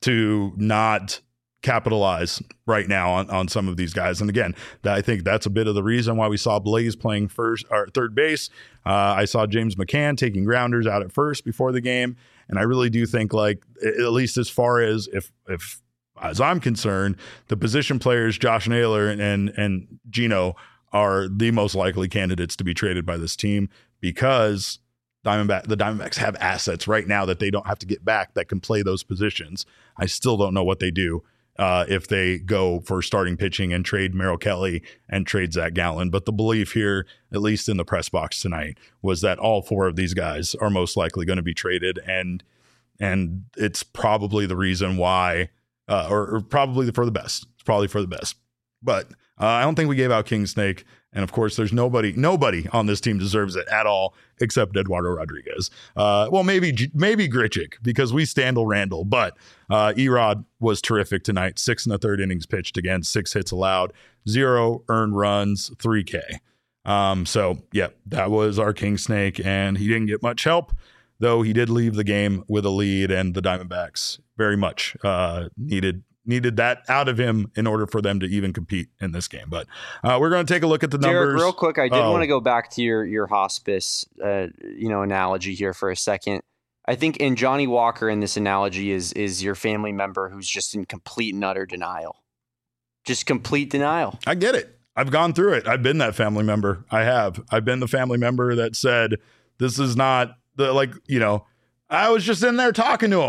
to not capitalize right now on, on some of these guys. And again, that, I think that's a bit of the reason why we saw Blaze playing first or third base. Uh, I saw James McCann taking grounders out at first before the game. And I really do think, like, at least as far as if, if, as I'm concerned, the position players, Josh Naylor and, and, and Gino, are the most likely candidates to be traded by this team, because Diamondback, the Diamondbacks have assets right now that they don't have to get back that can play those positions. I still don't know what they do uh, if they go for starting pitching and trade Merrill Kelly and trade Zach Gallen. But the belief here, at least in the press box tonight, was that all four of these guys are most likely going to be traded. And and it's probably the reason why, uh, or, or probably for the best. It's probably for the best. But uh, I don't think we gave out King Snake. And of course, there's nobody, nobody on this team deserves it at all except Eduardo Rodriguez. Uh, well, maybe, maybe Grichuk, because we Standal Randall, but uh, Erod was terrific tonight. Six and a third innings pitched again, six hits allowed, zero earned runs, three K. Um, so yeah, that was our King Snake, and he didn't get much help, though he did leave the game with a lead, and the Diamondbacks very much uh, needed needed that out of him in order for them to even compete in this game. But uh, we're going to take a look at the numbers. Derek, real quick, I did oh. want to go back to your your hospice, uh, you know, analogy here for a second. I think in Johnny Walker, in this analogy, is is your family member who's just in complete and utter denial, just complete denial. I get it. I've gone through it. I've been that family member. I have. I've been the family member that said, "This is not the like." You know, I was just in there talking to him.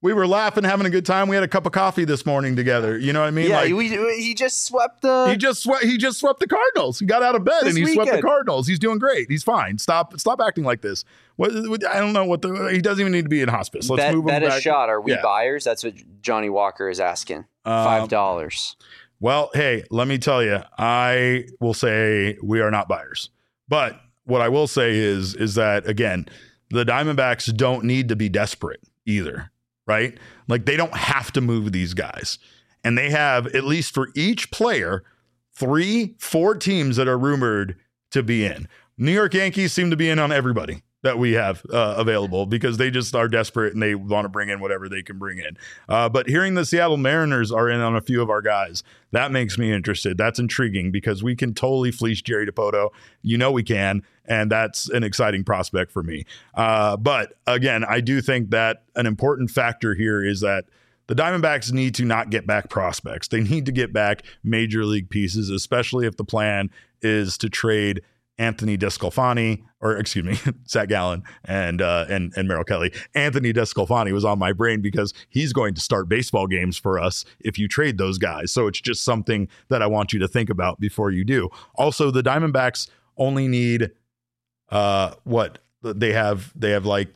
We were laughing, having a good time. We had a cup of coffee this morning together. You know what I mean? Yeah, like, we, he just swept the. he just swept. He just swept the Cardinals. He got out of bed This and he swept the weekend. Cardinals. He's doing great. He's fine. Stop. Stop acting like this. What, what I don't know what the. He doesn't even need to be in hospice. Let's bet move him bet a back. shot. Are we Yeah. buyers? That's what Johnny Walker is asking. Um, Five dollars. Well, hey, let me tell you, I will say we are not buyers. But what I will say is, is that again, the Diamondbacks don't need to be desperate either, right? Like they don't have to move these guys. And they have, at least for each player, three, four teams that are rumored to be in. New York Yankees seem to be in on everybody that we have uh, available because they just are desperate and they want to bring in whatever they can bring in. Uh, but hearing the Seattle Mariners are in on a few of our guys, that makes me interested. That's intriguing because we can totally fleece Jerry DePoto. You know we can, and that's an exciting prospect for me. Uh, but again, I do think that an important factor here is that the Diamondbacks need to not get back prospects. They need to get back major league pieces, especially if the plan is to trade Anthony Descalfani, or excuse me, Zach Gallen and uh, and and Merrill Kelly. Anthony Descalfani was on my brain because he's going to start baseball games for us if you trade those guys. So it's just something that I want you to think about before you do. Also, the Diamondbacks only need uh, what they have. They have like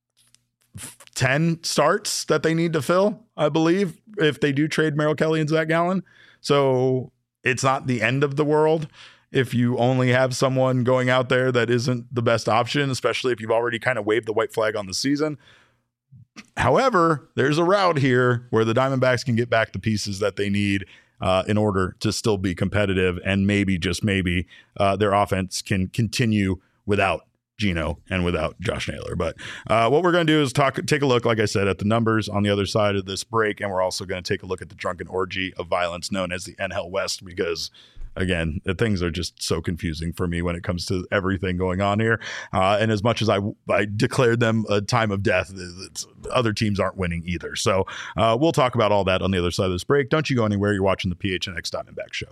ten starts that they need to fill, I believe, if they do trade Merrill Kelly and Zach Gallen. So it's not the end of the world if you only have someone going out there that isn't the best option, especially if you've already kind of waved the white flag on the season. However, there's a route here where the Diamondbacks can get back the pieces that they need uh, in order to still be competitive, and maybe, just maybe, uh, their offense can continue without Gino and without Josh Naylor. But uh, what we're going to do is talk, take a look, like I said, at the numbers on the other side of this break, and we're also going to take a look at the drunken orgy of violence known as the N L West, because again, the things are just so confusing for me when it comes to everything going on here. Uh, and as much as I, I declared them a time of death, it's, other teams aren't winning either. So uh, we'll talk about all that on the other side of this break. Don't you go anywhere. You're watching the P H N X Diamondback Show.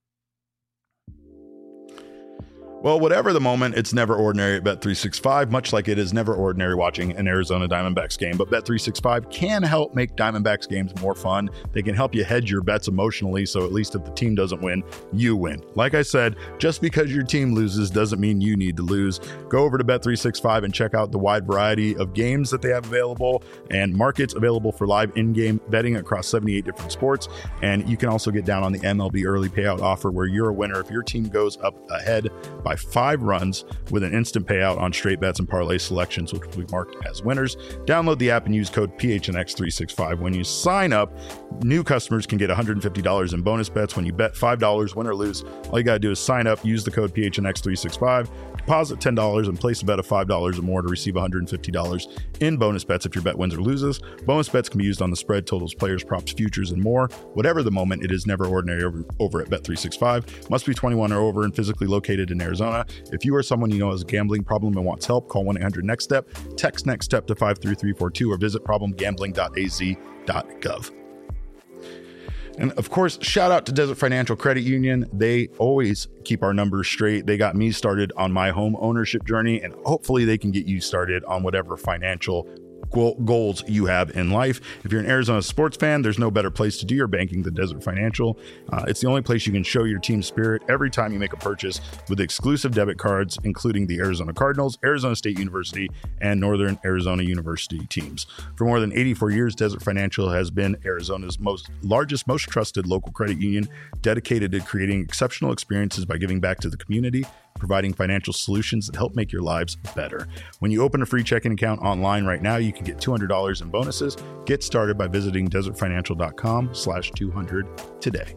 Well, whatever the moment, it's never ordinary at Bet three sixty-five, much like it is never ordinary watching an Arizona Diamondbacks game. But Bet three sixty-five can help make Diamondbacks games more fun. They can help you hedge your bets emotionally, so at least if the team doesn't win, you win. Like I said, just because your team loses doesn't mean you need to lose. Go over to Bet three sixty-five and check out the wide variety of games that they have available and markets available for live in-game betting across seventy-eight different sports. And you can also get down on the M L B early payout offer where you're a winner if your team goes up ahead by five runs with an instant payout on straight bets and parlay selections, which will be marked as winners. Download the app and use code P H N X three sixty-five. When you sign up, new customers can get one hundred fifty dollars in bonus bets when you bet five dollars, win or lose. All you got to do is sign up, use the code P H N X three sixty-five, deposit ten dollars, and place a bet of five dollars or more to receive one hundred fifty dollars in bonus bets if your bet wins or loses. Bonus bets can be used on the spread, totals, players, props, futures, and more. Whatever the moment, it is never ordinary over, over at Bet three sixty-five. Must be twenty-one or over and physically located in Arizona. If you or someone you know has a gambling problem and wants help, call one eight hundred next step, text next step to five three three four two, or visit problem gambling dot a z dot gov. And of course, shout out to Desert Financial Credit Union. They always keep our numbers straight. They got me started on my home ownership journey, and hopefully they can get you started on whatever financial goals you have in life. If you're an Arizona sports fan, there's no better place to do your banking than Desert Financial. Uh, it's the only place you can show your team spirit every time you make a purchase with exclusive debit cards, including the Arizona Cardinals, Arizona State University, and Northern Arizona University teams. For more than eighty-four years, Desert Financial has been Arizona's most largest, most trusted local credit union, dedicated to creating exceptional experiences by giving back to the community, providing financial solutions that help make your lives better. When you open a free checking account online right now, you can get two hundred dollars in bonuses. Get started by visiting desert financial dot com slash two hundred today.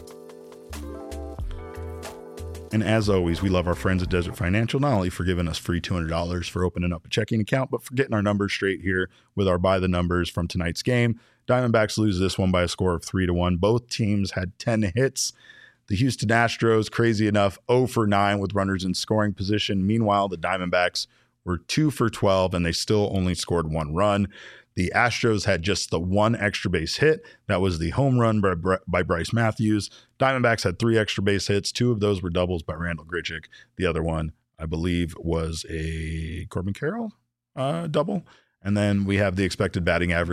And as always, we love our friends at Desert Financial, not only for giving us free two hundred dollars for opening up a checking account, but for getting our numbers straight here with our by the numbers from tonight's game. Diamondbacks lose this one by a score of three to one. Both teams had ten hits. The Houston Astros, crazy enough, zero for nine with runners in scoring position. Meanwhile, the Diamondbacks were two for twelve, and they still only scored one run. The Astros had just the one extra base hit. That was the home run by, by Bryce Matthews. Diamondbacks had three extra base hits. Two of those were doubles by Randall Grichuk. The other one, I believe, was a Corbin Carroll uh, double. And then we have the expected batting average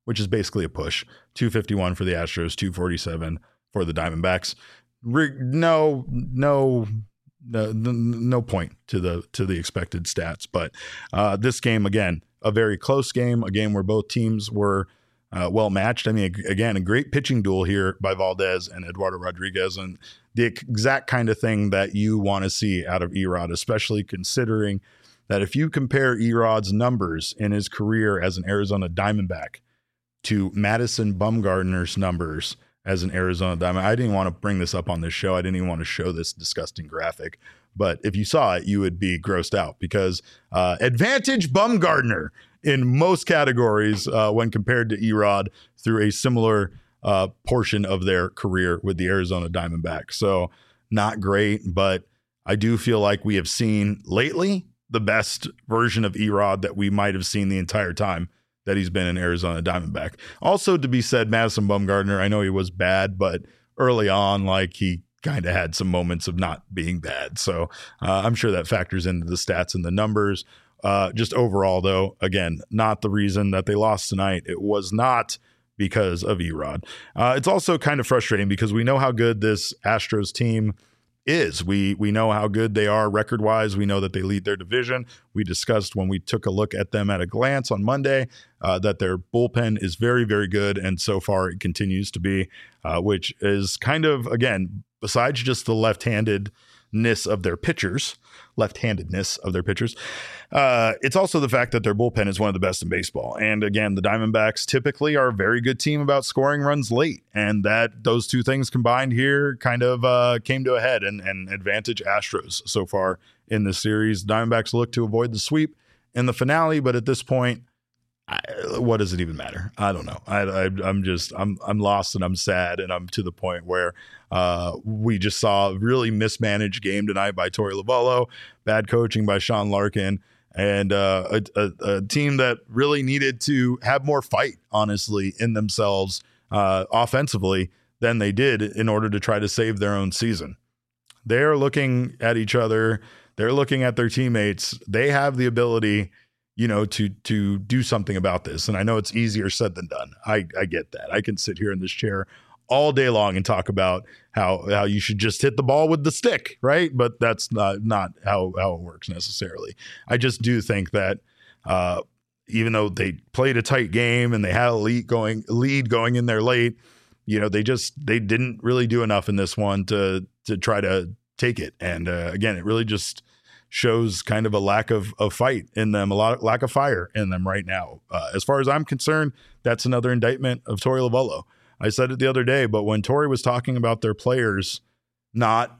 which is basically a push. two fifty-one for the Astros, two forty-seven for the Diamondbacks. Re- no, no, no, no point to the to the expected stats. But uh, this game, again, a very close game, a game where both teams were uh, well matched. I mean, again, a great pitching duel here by Valdez and Eduardo Rodriguez, and the exact kind of thing that you want to see out of Erod, especially considering that if you compare Erod's numbers in his career as an Arizona Diamondback to Madison Bumgarner's numbers as an Arizona Diamondback, I didn't want to bring this up on this show. I didn't even want to show this disgusting graphic. But if you saw it, you would be grossed out because uh, advantage Bumgarner in most categories uh, when compared to Erod through a similar uh, portion of their career with the Arizona Diamondbacks. So not great, but I do feel like we have seen lately the best version of Erod that we might have seen the entire time that he's been an Arizona Diamondback. Also to be said, Madison Bumgarner, I know he was bad, but early on, like he kind of had some moments of not being bad. So uh, I'm sure that factors into the stats and the numbers. Uh, just overall, though, again, not the reason that they lost tonight. It was not because of Erod. Uh, it's also kind of frustrating because we know how good this Astros team is. We we know how good they are record-wise. We know that they lead their division. We discussed when we took a look at them at a glance on Monday uh, that their bullpen is very, very good, and so far it continues to be, uh, which is kind of, again, besides just the left-handedness of their pitchers, left-handedness of their pitchers, uh, it's also the fact that their bullpen is one of the best in baseball. And again, the Diamondbacks typically are a very good team about scoring runs late, and that those two things combined here kind of uh, came to a head and, and advantage Astros so far in this series. Diamondbacks look to avoid the sweep in the finale, but at this point, I, what does it even matter? I don't know. I, I, I'm just I'm I'm lost and I'm sad, and I'm to the point where uh, we just saw a really mismanaged game tonight by Torey Lovullo, bad coaching by Sean Larkin, and uh, a, a, a team that really needed to have more fight, honestly, in themselves uh, offensively than they did in order to try to save their own season. They are looking at each other. They're looking at their teammates. They have the ability, you know, to to do something about this. And I know it's easier said than done. I, I get that. I can sit here in this chair all day long and talk about how how you should just hit the ball with the stick, right? But that's not not how, how it works necessarily. I just do think that uh, even though they played a tight game and they had a lead going lead going in there late, you know, they just they didn't really do enough in this one to to try to take it. And uh, again, it really just shows kind of a lack of, of fight in them, a lot of, lack of fire in them right now. Uh, as far as I'm concerned, that's another indictment of Torey Lovullo. I said it the other day, but when Torey was talking about their players not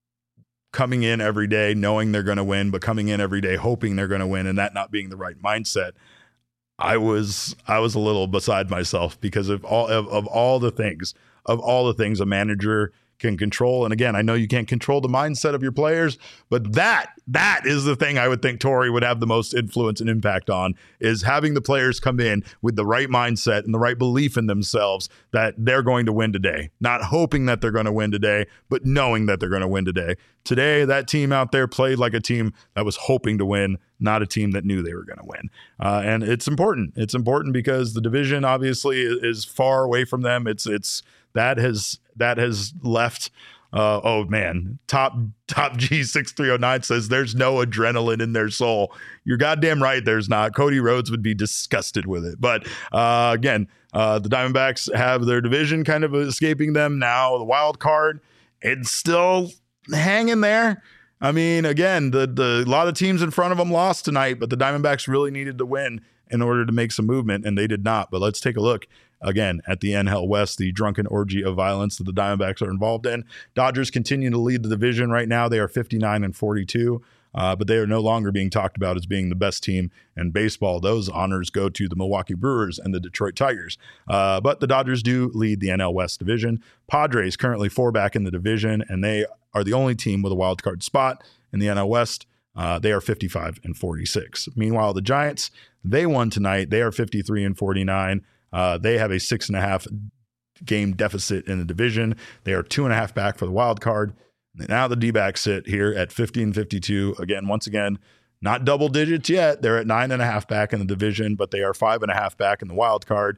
coming in every day knowing they're going to win, but coming in every day hoping they're going to win, and that not being the right mindset, I was I was a little beside myself because of all of, of all the things, of all the things a manager can control. And again, I know you can't control the mindset of your players, but that that is the thing I would think Torey would have the most influence and impact on, is having the players come in with the right mindset and the right belief in themselves that they're going to win today, not hoping that they're going to win today, but knowing that they're going to win today. Today, that team out there played like a team that was hoping to win, not a team that knew they were going to win. Uh, and it's important. It's important because the division obviously is far away from them. It's it's that has that has left. Uh, oh man, top top G six three oh nine says there's no adrenaline in their soul. You're goddamn right, there's not. Cody Rhodes would be disgusted with it. But uh, again, uh, the Diamondbacks have their division kind of escaping them now. The wild card, it's still hanging there. I mean, again, the the a lot of teams in front of them lost tonight, but the Diamondbacks really needed to win in order to make some movement, and they did not. But let's take a look again at the N L West, the drunken orgy of violence that the Diamondbacks are involved in. Dodgers continue to lead the division right now. They are fifty-nine and forty-two, uh, but they are no longer being talked about as being the best team in baseball. Those honors go to the Milwaukee Brewers and the Detroit Tigers. Uh, but the Dodgers do lead the N L West division. Padres currently four back in the division, and they are the only team with a wild card spot in the N L West. Uh, they are fifty-five and forty-six. Meanwhile, the Giants, they won tonight. They are fifty-three and forty-nine. Uh, they have a six and a half game deficit in the division. They are two and a half back for the wild card. Now the D-backs sit here at fifty and fifty-two. Again, once again, not double digits yet. They're at nine and a half back in the division, but they are five and a half back in the wild card.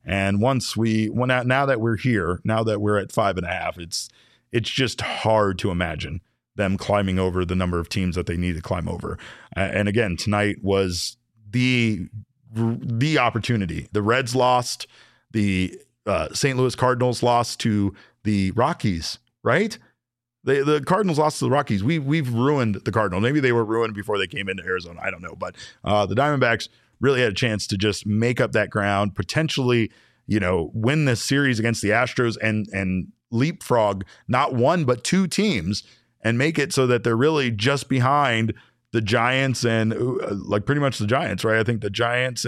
And once we, when now that we're here, now that we're at five and a half, it's it's just hard to imagine them climbing over the number of teams that they need to climb over. Uh, and again, tonight was the the opportunity. The Reds lost. The uh, Saint Louis Cardinals lost to the Rockies, right? The the Cardinals lost to the Rockies. We we've ruined the Cardinals. Maybe they were ruined before they came into Arizona. I don't know, but uh, the Diamondbacks really had a chance to just make up that ground, potentially, you know, win this series against the Astros and and leapfrog not one but two teams and make it so that they're really just behind the Giants and uh, like pretty much the Giants, right? I think the Giants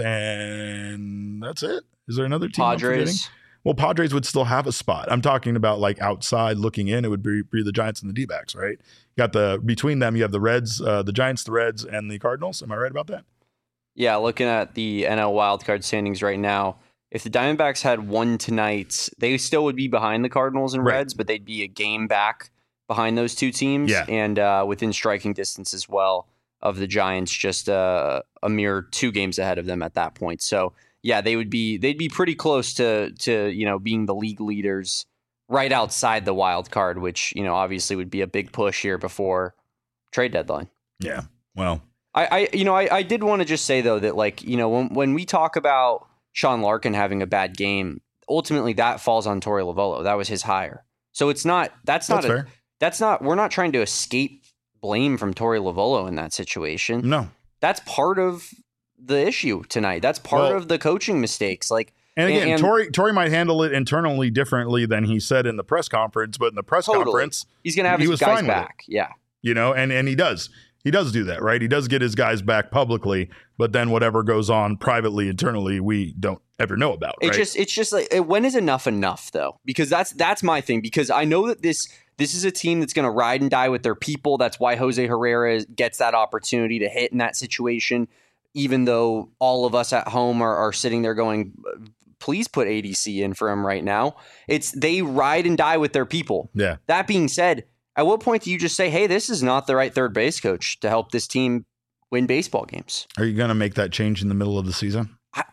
and that's it. Is there another team? Padres. Well, Padres would still have a spot. I'm talking about like outside looking in, it would be, be the Giants and the D-backs, right? You got the between them, you have the Reds, uh, the Giants, the Reds, and the Cardinals. Am I right about that? Yeah, looking at the N L wildcard standings right now, if the Diamondbacks had won tonight, they still would be behind the Cardinals and Right. Reds, but they'd be a game back behind those two teams, Yeah. and uh, within striking distance as well of the Giants, just uh, a mere two games ahead of them at that point. So yeah, they would be they'd be pretty close to to you know being the league leaders right outside the wild card, which you know obviously would be a big push here before trade deadline. Yeah. Well, I, I you know I, I did want to just say though that like you know when when we talk about Sean Larkin having a bad game, ultimately that falls on Torey Lovullo. That was his hire, so it's not that's not that's a, fair. that's not we're not trying to escape blame from Torey Lovullo in that situation. No. That's part of the issue tonight. That's part Well, of the coaching mistakes. Like, And again, and, Torey Torey might handle it internally differently than he said in the press conference, but in the press Totally. conference, he's going to have he his was guys fine with back. Yeah. you know, and and he does. He does do that, right? He does get his guys back publicly, but then whatever goes on privately, internally, we don't ever know about. It right? just it's just like when is enough enough though? Because that's that's my thing. Because I know that this this is a team that's going to ride and die with their people. That's why Jose Herrera gets that opportunity to hit in that situation. Even though all of us at home are, are sitting there going, please put A D C in for him right now. It's they ride and die with their people. Yeah. That being said, at what point do you just say, hey, this is not the right third base coach to help this team win baseball games? Are you going to make that change in the middle of the season?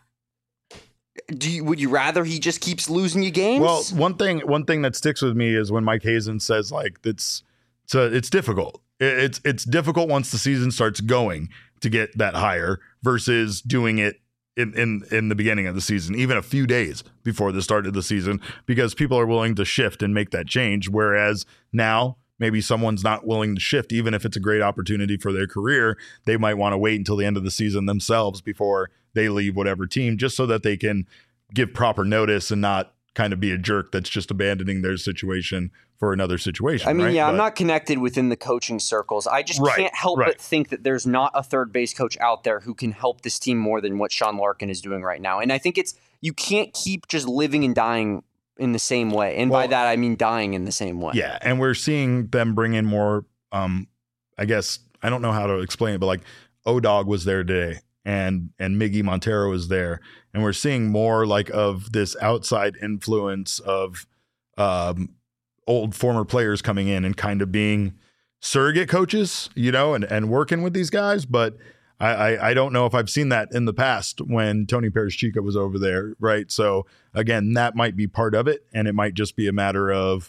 Do you, would you rather he just keeps losing you games? Well, one thing one thing that sticks with me is when Mike Hazen says like it's it's, a, it's difficult. It, it's it's difficult once the season starts going to get that higher versus doing it in, in in the beginning of the season, even a few days before the start of the season, because people are willing to shift and make that change. Whereas now maybe someone's not willing to shift, even if it's a great opportunity for their career. They might want to wait until the end of the season themselves before they leave whatever team, just so that they can give proper notice and not kind of be a jerk that's just abandoning their situation for another situation. I mean, right? yeah, But, I'm not connected within the coaching circles. I just Right, can't help right. but think that there's not a third base coach out there who can help this team more than what Sean Larkin is doing right now. And I think it's you can't keep just living and dying in the same way. And by Well, that, I mean dying in the same way. Yeah, and we're seeing them bring in more. Um, I guess I don't know how to explain it, but like O-Dog was there today, and and Miggy Montero is there, and we're seeing more like of this outside influence of um, old former players coming in and kind of being surrogate coaches, you know, and and working with these guys, but. I, I, I don't know if I've seen that in the past when Tony Perez-Chica was over there, right? So again, that might be part of it, and it might just be a matter of,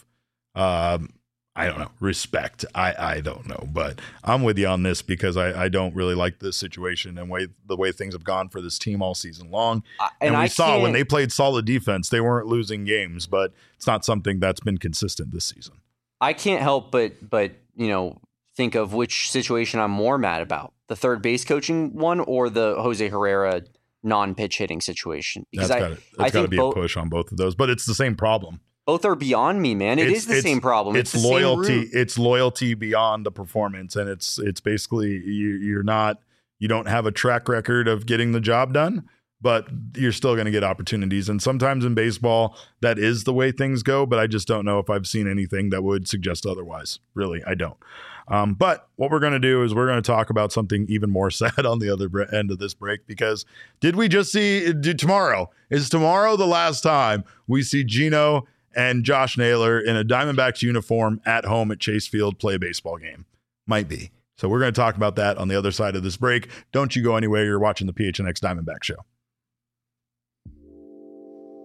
um, I don't know, respect. I, I don't know, but I'm with you on this because I, I don't really like this situation and way the way things have gone for this team all season long. I- And, and we I saw when can't- they played solid defense, they weren't losing games, but it's not something that's been consistent this season. I can't help but but you know think of which situation I'm more mad about: the third base coaching one or the Jose Herrera non-pitch hitting situation. Because That's I, got to I that's got to think be both, a push on both of those, but it's the same problem. both are beyond me, man. It It's- is the it's- same problem. It's, It's, the same loyalty. root. It's loyalty beyond the performance, and it's it's basically you, you're not you don't have a track record of getting the job done, but you're still going to get opportunities. And sometimes in baseball, that is the way things go. But I just don't know if I've seen anything that would suggest otherwise. Really, I don't. Um, but what we're going to do is we're going to talk about something even more sad on the other bre- end of this break, because did we just see did tomorrow? Is tomorrow the last time we see Gino and Josh Naylor in a Diamondbacks uniform at home at Chase Field play a baseball game? Might be. So we're going to talk about that on the other side of this break. Don't you go anywhere. You're watching the P H N X Diamondback Show.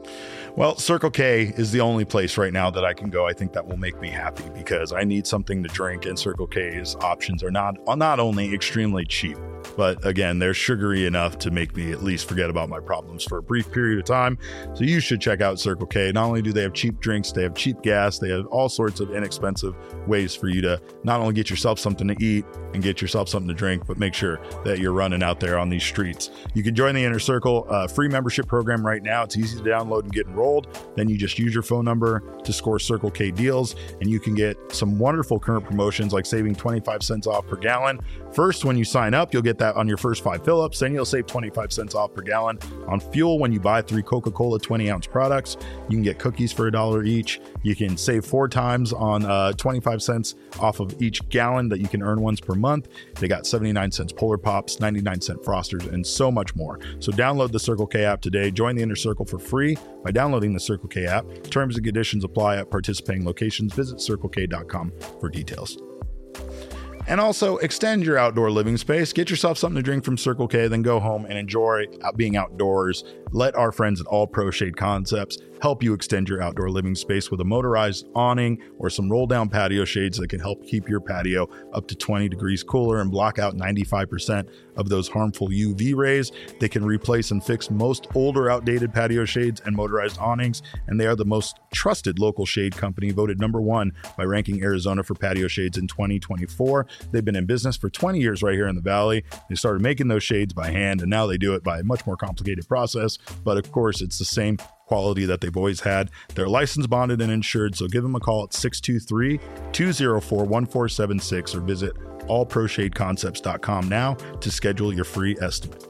Well, Circle K is the only place right now that I can go. I think that will make me happy because I need something to drink, and Circle K's options are not not only extremely cheap, but again, they're sugary enough to make me at least forget about my problems for a brief period of time. So you should check out Circle K. Not only do they have cheap drinks, they have cheap gas, they have all sorts of inexpensive ways for you to not only get yourself something to eat and get yourself something to drink, but make sure that you're running out there on these streets. You can join the Inner Circle uh, free membership program right now. It's easy to download and get enrolled. Then you just use your phone number to score Circle K deals, and you can get some wonderful current promotions like saving twenty-five cents off per gallon. First, when you sign up, you'll get that on your first five fill-ups. Then you'll save twenty-five cents off per gallon on fuel when you buy three Coca-Cola twenty ounce products. You can get cookies for a dollar each. You can save four times on uh, twenty-five cents off of each gallon that you can earn once per month. They got seventy-nine cents Polar Pops, ninety-nine cent Frosters, and so much more. So download the Circle K app today. Join the Inner Circle for free by downloading the Circle K app. Terms and conditions apply at participating locations. Visit circle k dot com for details. And also extend your outdoor living space. Get yourself something to drink from Circle K, then go home and enjoy being outdoors. Let our friends at All Pro Shade Concepts help you extend your outdoor living space with a motorized awning or some roll down patio shades that can help keep your patio up to twenty degrees cooler and block out ninety-five percent of those harmful U V rays. They can replace and fix most older outdated patio shades and motorized awnings, and they are the most trusted local shade company, voted number one by Ranking Arizona for patio shades in twenty twenty-four. They've been in business for twenty years right here in the Valley. They started making those shades by hand, and now they do it by a much more complicated process. But of course, it's the same quality that they've always had. They're licensed, bonded, and insured, so give them a call at six two three, two oh four, one four seven six or visit all pro shade concepts dot com now to schedule your free estimate.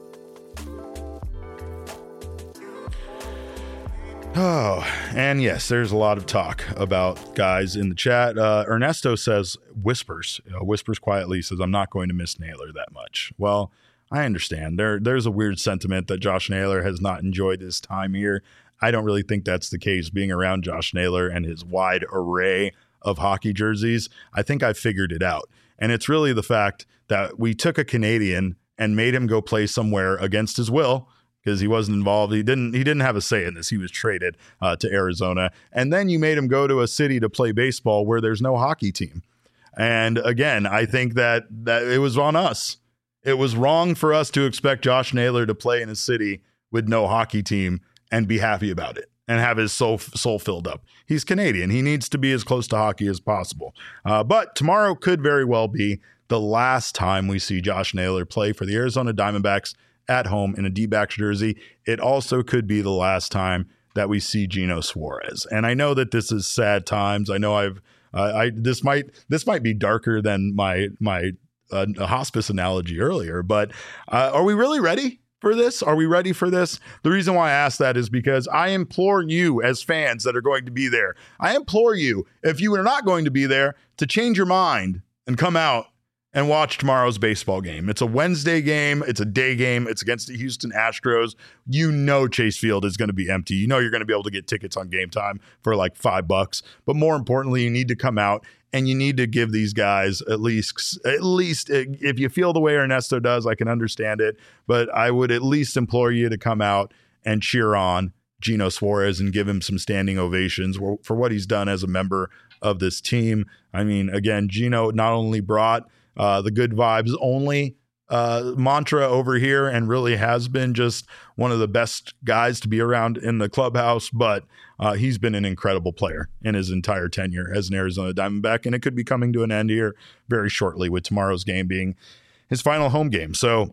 Oh, and yes, there's a lot of talk about guys in the chat. Uh, Ernesto says, whispers, you know, whispers quietly, says, I'm not going to miss Naylor that much. Well, I understand. There, There's a weird sentiment that Josh Naylor has not enjoyed his time here. I don't really think that's the case. Being around Josh Naylor and his wide array of hockey jerseys, I think I figured it out. And it's really the fact that we took a Canadian and made him go play somewhere against his will, because he wasn't involved. He didn't he didn't have a say in this. He was traded uh, to Arizona. And then you made him go to a city to play baseball where there's no hockey team. And again, I think that, that it was on us. It was wrong for us to expect Josh Naylor to play in a city with no hockey team and be happy about it and have his soul, soul filled up. He's Canadian. He needs to be as close to hockey as possible. Uh, but tomorrow could very well be the last time we see Josh Naylor play for the Arizona Diamondbacks at home in a D-backs jersey. It also could be the last time that we see Gino Suarez. And I know that this is sad times. I know I've uh, I this might this might be darker than my my uh, hospice analogy earlier, but uh, are we really ready for this? Are we ready for this? The reason why I ask that is because I implore you as fans that are going to be there. I implore you, if you are not going to be there, to change your mind and come out and watch tomorrow's baseball game. It's a Wednesday game. It's a day game. It's against the Houston Astros. You know Chase Field is going to be empty. You know you're going to be able to get tickets on Game Time for like five bucks. But more importantly, you need to come out and you need to give these guys at least, at least if you feel the way Ernesto does, I can understand it. But I would at least implore you to come out and cheer on Gino Suarez and give him some standing ovations for what he's done as a member of this team. I mean, again, Gino not only brought Uh, the good vibes only uh, mantra over here and really has been just one of the best guys to be around in the clubhouse, but uh, he's been an incredible player in his entire tenure as an Arizona Diamondback, and it could be coming to an end here very shortly with tomorrow's game being his final home game. So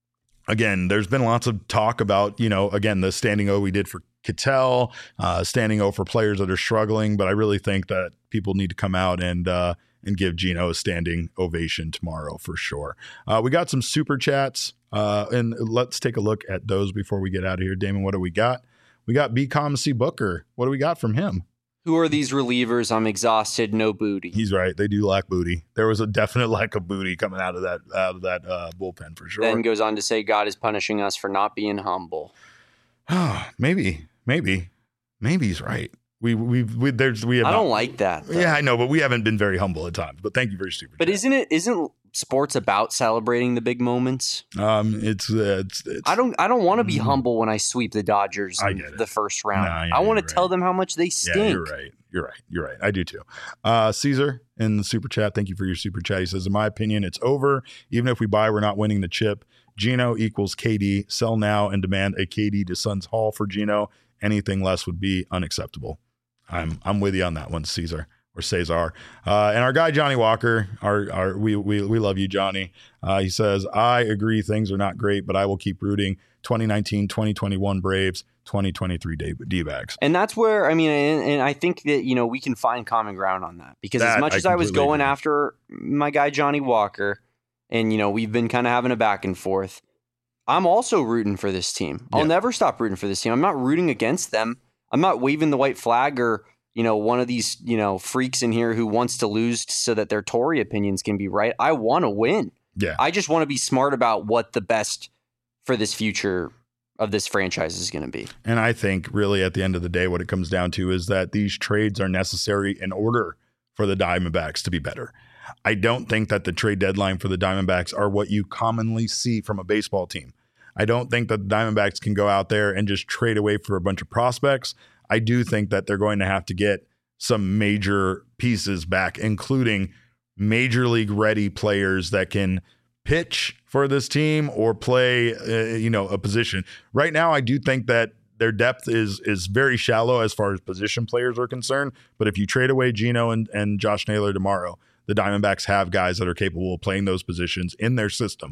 again, there's been lots of talk about, you know, again, the standing O we did for Ketel, uh, standing O for players that are struggling, but I really think that people need to come out and uh, and give Gino a standing ovation tomorrow for sure. Uh, we got some super chats, uh, and let's take a look at those before we get out of here. Damon, what do we got? We got B Com C Booker. What do we got from him? Who are these relievers? I'm exhausted. No booty. He's right. They do lack booty. There was a definite lack of booty coming out of that out of that uh, bullpen for sure. Then goes on to say God is punishing us for not being humble. maybe, maybe, maybe he's right. We we we there's we have I not, don't like that. Though. Yeah, I know, but we haven't been very humble at times. But thank you for your super. But chat. isn't it isn't sports about celebrating the big moments? Um, it's, uh, it's, it's I don't I don't want to be mm, humble when I sweep the Dodgers I in get it. the first round. Nah, yeah, I want to you're tell right. them how much they stink. Yeah, you're right. You're right. You're right. I do too. Uh, Caesar in the super chat. Thank you for your super chat. He says, in my opinion, it's over. Even if we buy, we're not winning the chip. Gino equals K D. Sell now and demand a K D to Suns Hall for Gino. Anything less would be unacceptable. I'm I'm with you on that one, Caesar or Cesar. Uh, and our guy Johnny Walker, our our we we we love you, Johnny. Uh, he says, I agree things are not great, but I will keep rooting. twenty nineteen, twenty twenty-one Braves, twenty twenty-three D-backs. And that's where, I mean, and, and I think that, you know, we can find common ground on that. Because That as much I as I was completely going agree. after my guy Johnny Walker, and, you know, we've been kind of having a back and forth, I'm also rooting for this team. I'll Yeah. never stop rooting for this team. I'm not rooting against them. I'm not waving the white flag or, you know, one of these, you know, freaks in here who wants to lose so that their Tory opinions can be right. I want to win. Yeah. I just want to be smart about what the best for this future of this franchise is going to be. And I think really at the end of the day, what it comes down to is that these trades are necessary in order for the Diamondbacks to be better. I don't think that the trade deadline for the Diamondbacks are what you commonly see from a baseball team. I don't think that the Diamondbacks can go out there and just trade away for a bunch of prospects. I do think that they're going to have to get some major pieces back, including major league ready players that can pitch for this team or play, uh, you know, a position. Right now, I do think that their depth is is very shallow as far as position players are concerned. But if you trade away Gino and, and Josh Naylor tomorrow, the Diamondbacks have guys that are capable of playing those positions in their system.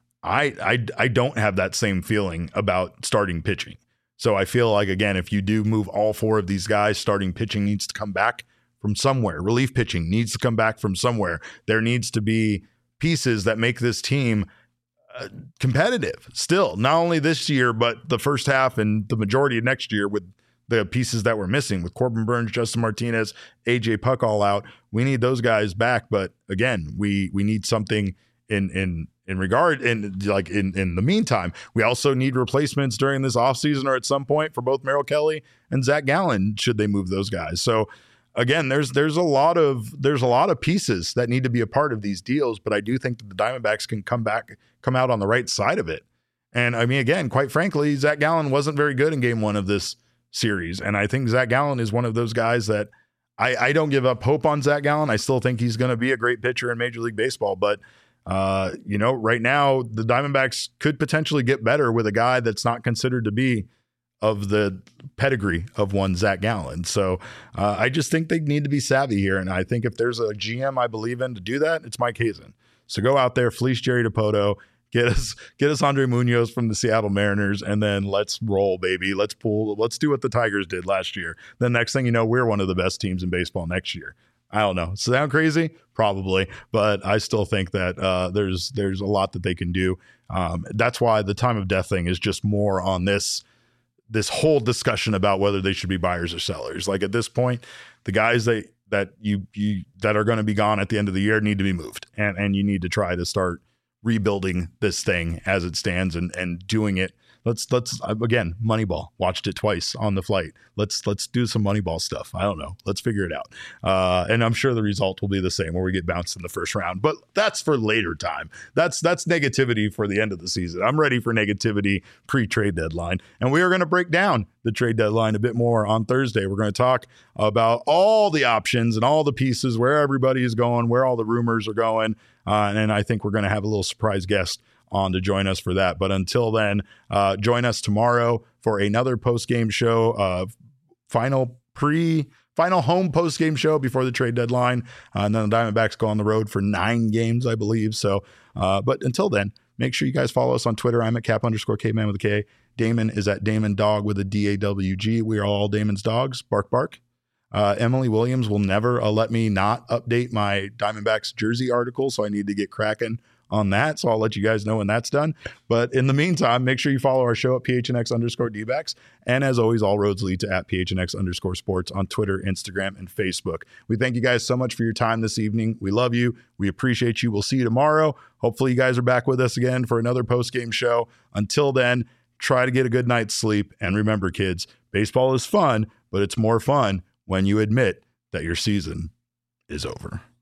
I I, I don't have that same feeling about starting pitching. So I feel like, again, if you do move all four of these guys, starting pitching needs to come back from somewhere. Relief pitching needs to come back from somewhere. There needs to be pieces that make this team uh, competitive still, not only this year, but the first half and the majority of next year with the pieces that we're missing with Corbin Burns, Justin Martinez, A J Puck all out. We need those guys back. But again, we we need something in in in regard in like in in the meantime. We also need replacements during this offseason or at some point for both Merrill Kelly and Zach Gallen should they move those guys. So again, there's there's a lot of there's a lot of pieces that need to be a part of these deals, but I do think that the Diamondbacks can come back, come out on the right side of it. And I mean, again, quite frankly, Zach Gallen wasn't very good in game one of this series. And I think Zach Gallen is one of those guys that I, I don't give up hope on Zach Gallen. I still think he's going to be a great pitcher in Major League Baseball. But, uh, you know, right now, the Diamondbacks could potentially get better with a guy that's not considered to be of the pedigree of one Zach Gallen. So uh, I just think they need to be savvy here. And I think if there's a G M I believe in to do that, it's Mike Hazen. So go out there, fleece Jerry Dipoto, get us get us Andre Munoz from the Seattle Mariners, and then let's roll, baby. Let's pull. Let's do what the Tigers did last year. The next thing you know, we're one of the best teams in baseball next year. I don't know. Sound crazy? Probably, but I still think that uh, there's there's a lot that they can do. Um, that's why the time of death thing is just more on this this whole discussion about whether they should be buyers or sellers. Like at this point, the guys that that you you that are going to be gone at the end of the year need to be moved, and and you need to try to start rebuilding this thing as it stands and and doing it. Let's let's again, Moneyball. Watched it twice on the flight. Let's let's do some Moneyball stuff. I don't know. Let's figure it out. Uh, and I'm sure the result will be the same, where we get bounced in the first round. But that's for later time. That's that's negativity for the end of the season. I'm ready for negativity pre-trade deadline, and we are going to break down the trade deadline a bit more on Thursday. We're going to talk about all the options and all the pieces, where everybody is going, where all the rumors are going, uh, and I think we're going to have a little surprise guest on to join us for that. But until then, uh, join us tomorrow for another post-game show, uh, final pre, final home post-game show before the trade deadline. Uh, and then the Diamondbacks go on the road for nine games, I believe. So, uh, but until then, make sure you guys follow us on Twitter. I'm at cap underscore caveman with a K. Damon is at Damon Dog with a D A W G. We are all Damon's dogs. Bark, bark. Uh, Emily Williams will never uh, let me not update my Diamondbacks jersey article, so I need to get cracking on that. So I'll let you guys know when that's done. But in the meantime, make sure you follow our show at P H N X underscore D-backs. And as always, all roads lead to at P H N X underscore sports on Twitter, Instagram, and Facebook. We thank you guys so much for your time this evening. We love you. We appreciate you. We'll see you tomorrow. Hopefully you guys are back with us again for another post-game show. Until then, try to get a good night's sleep. And remember, kids, baseball is fun, but it's more fun when you admit that your season is over.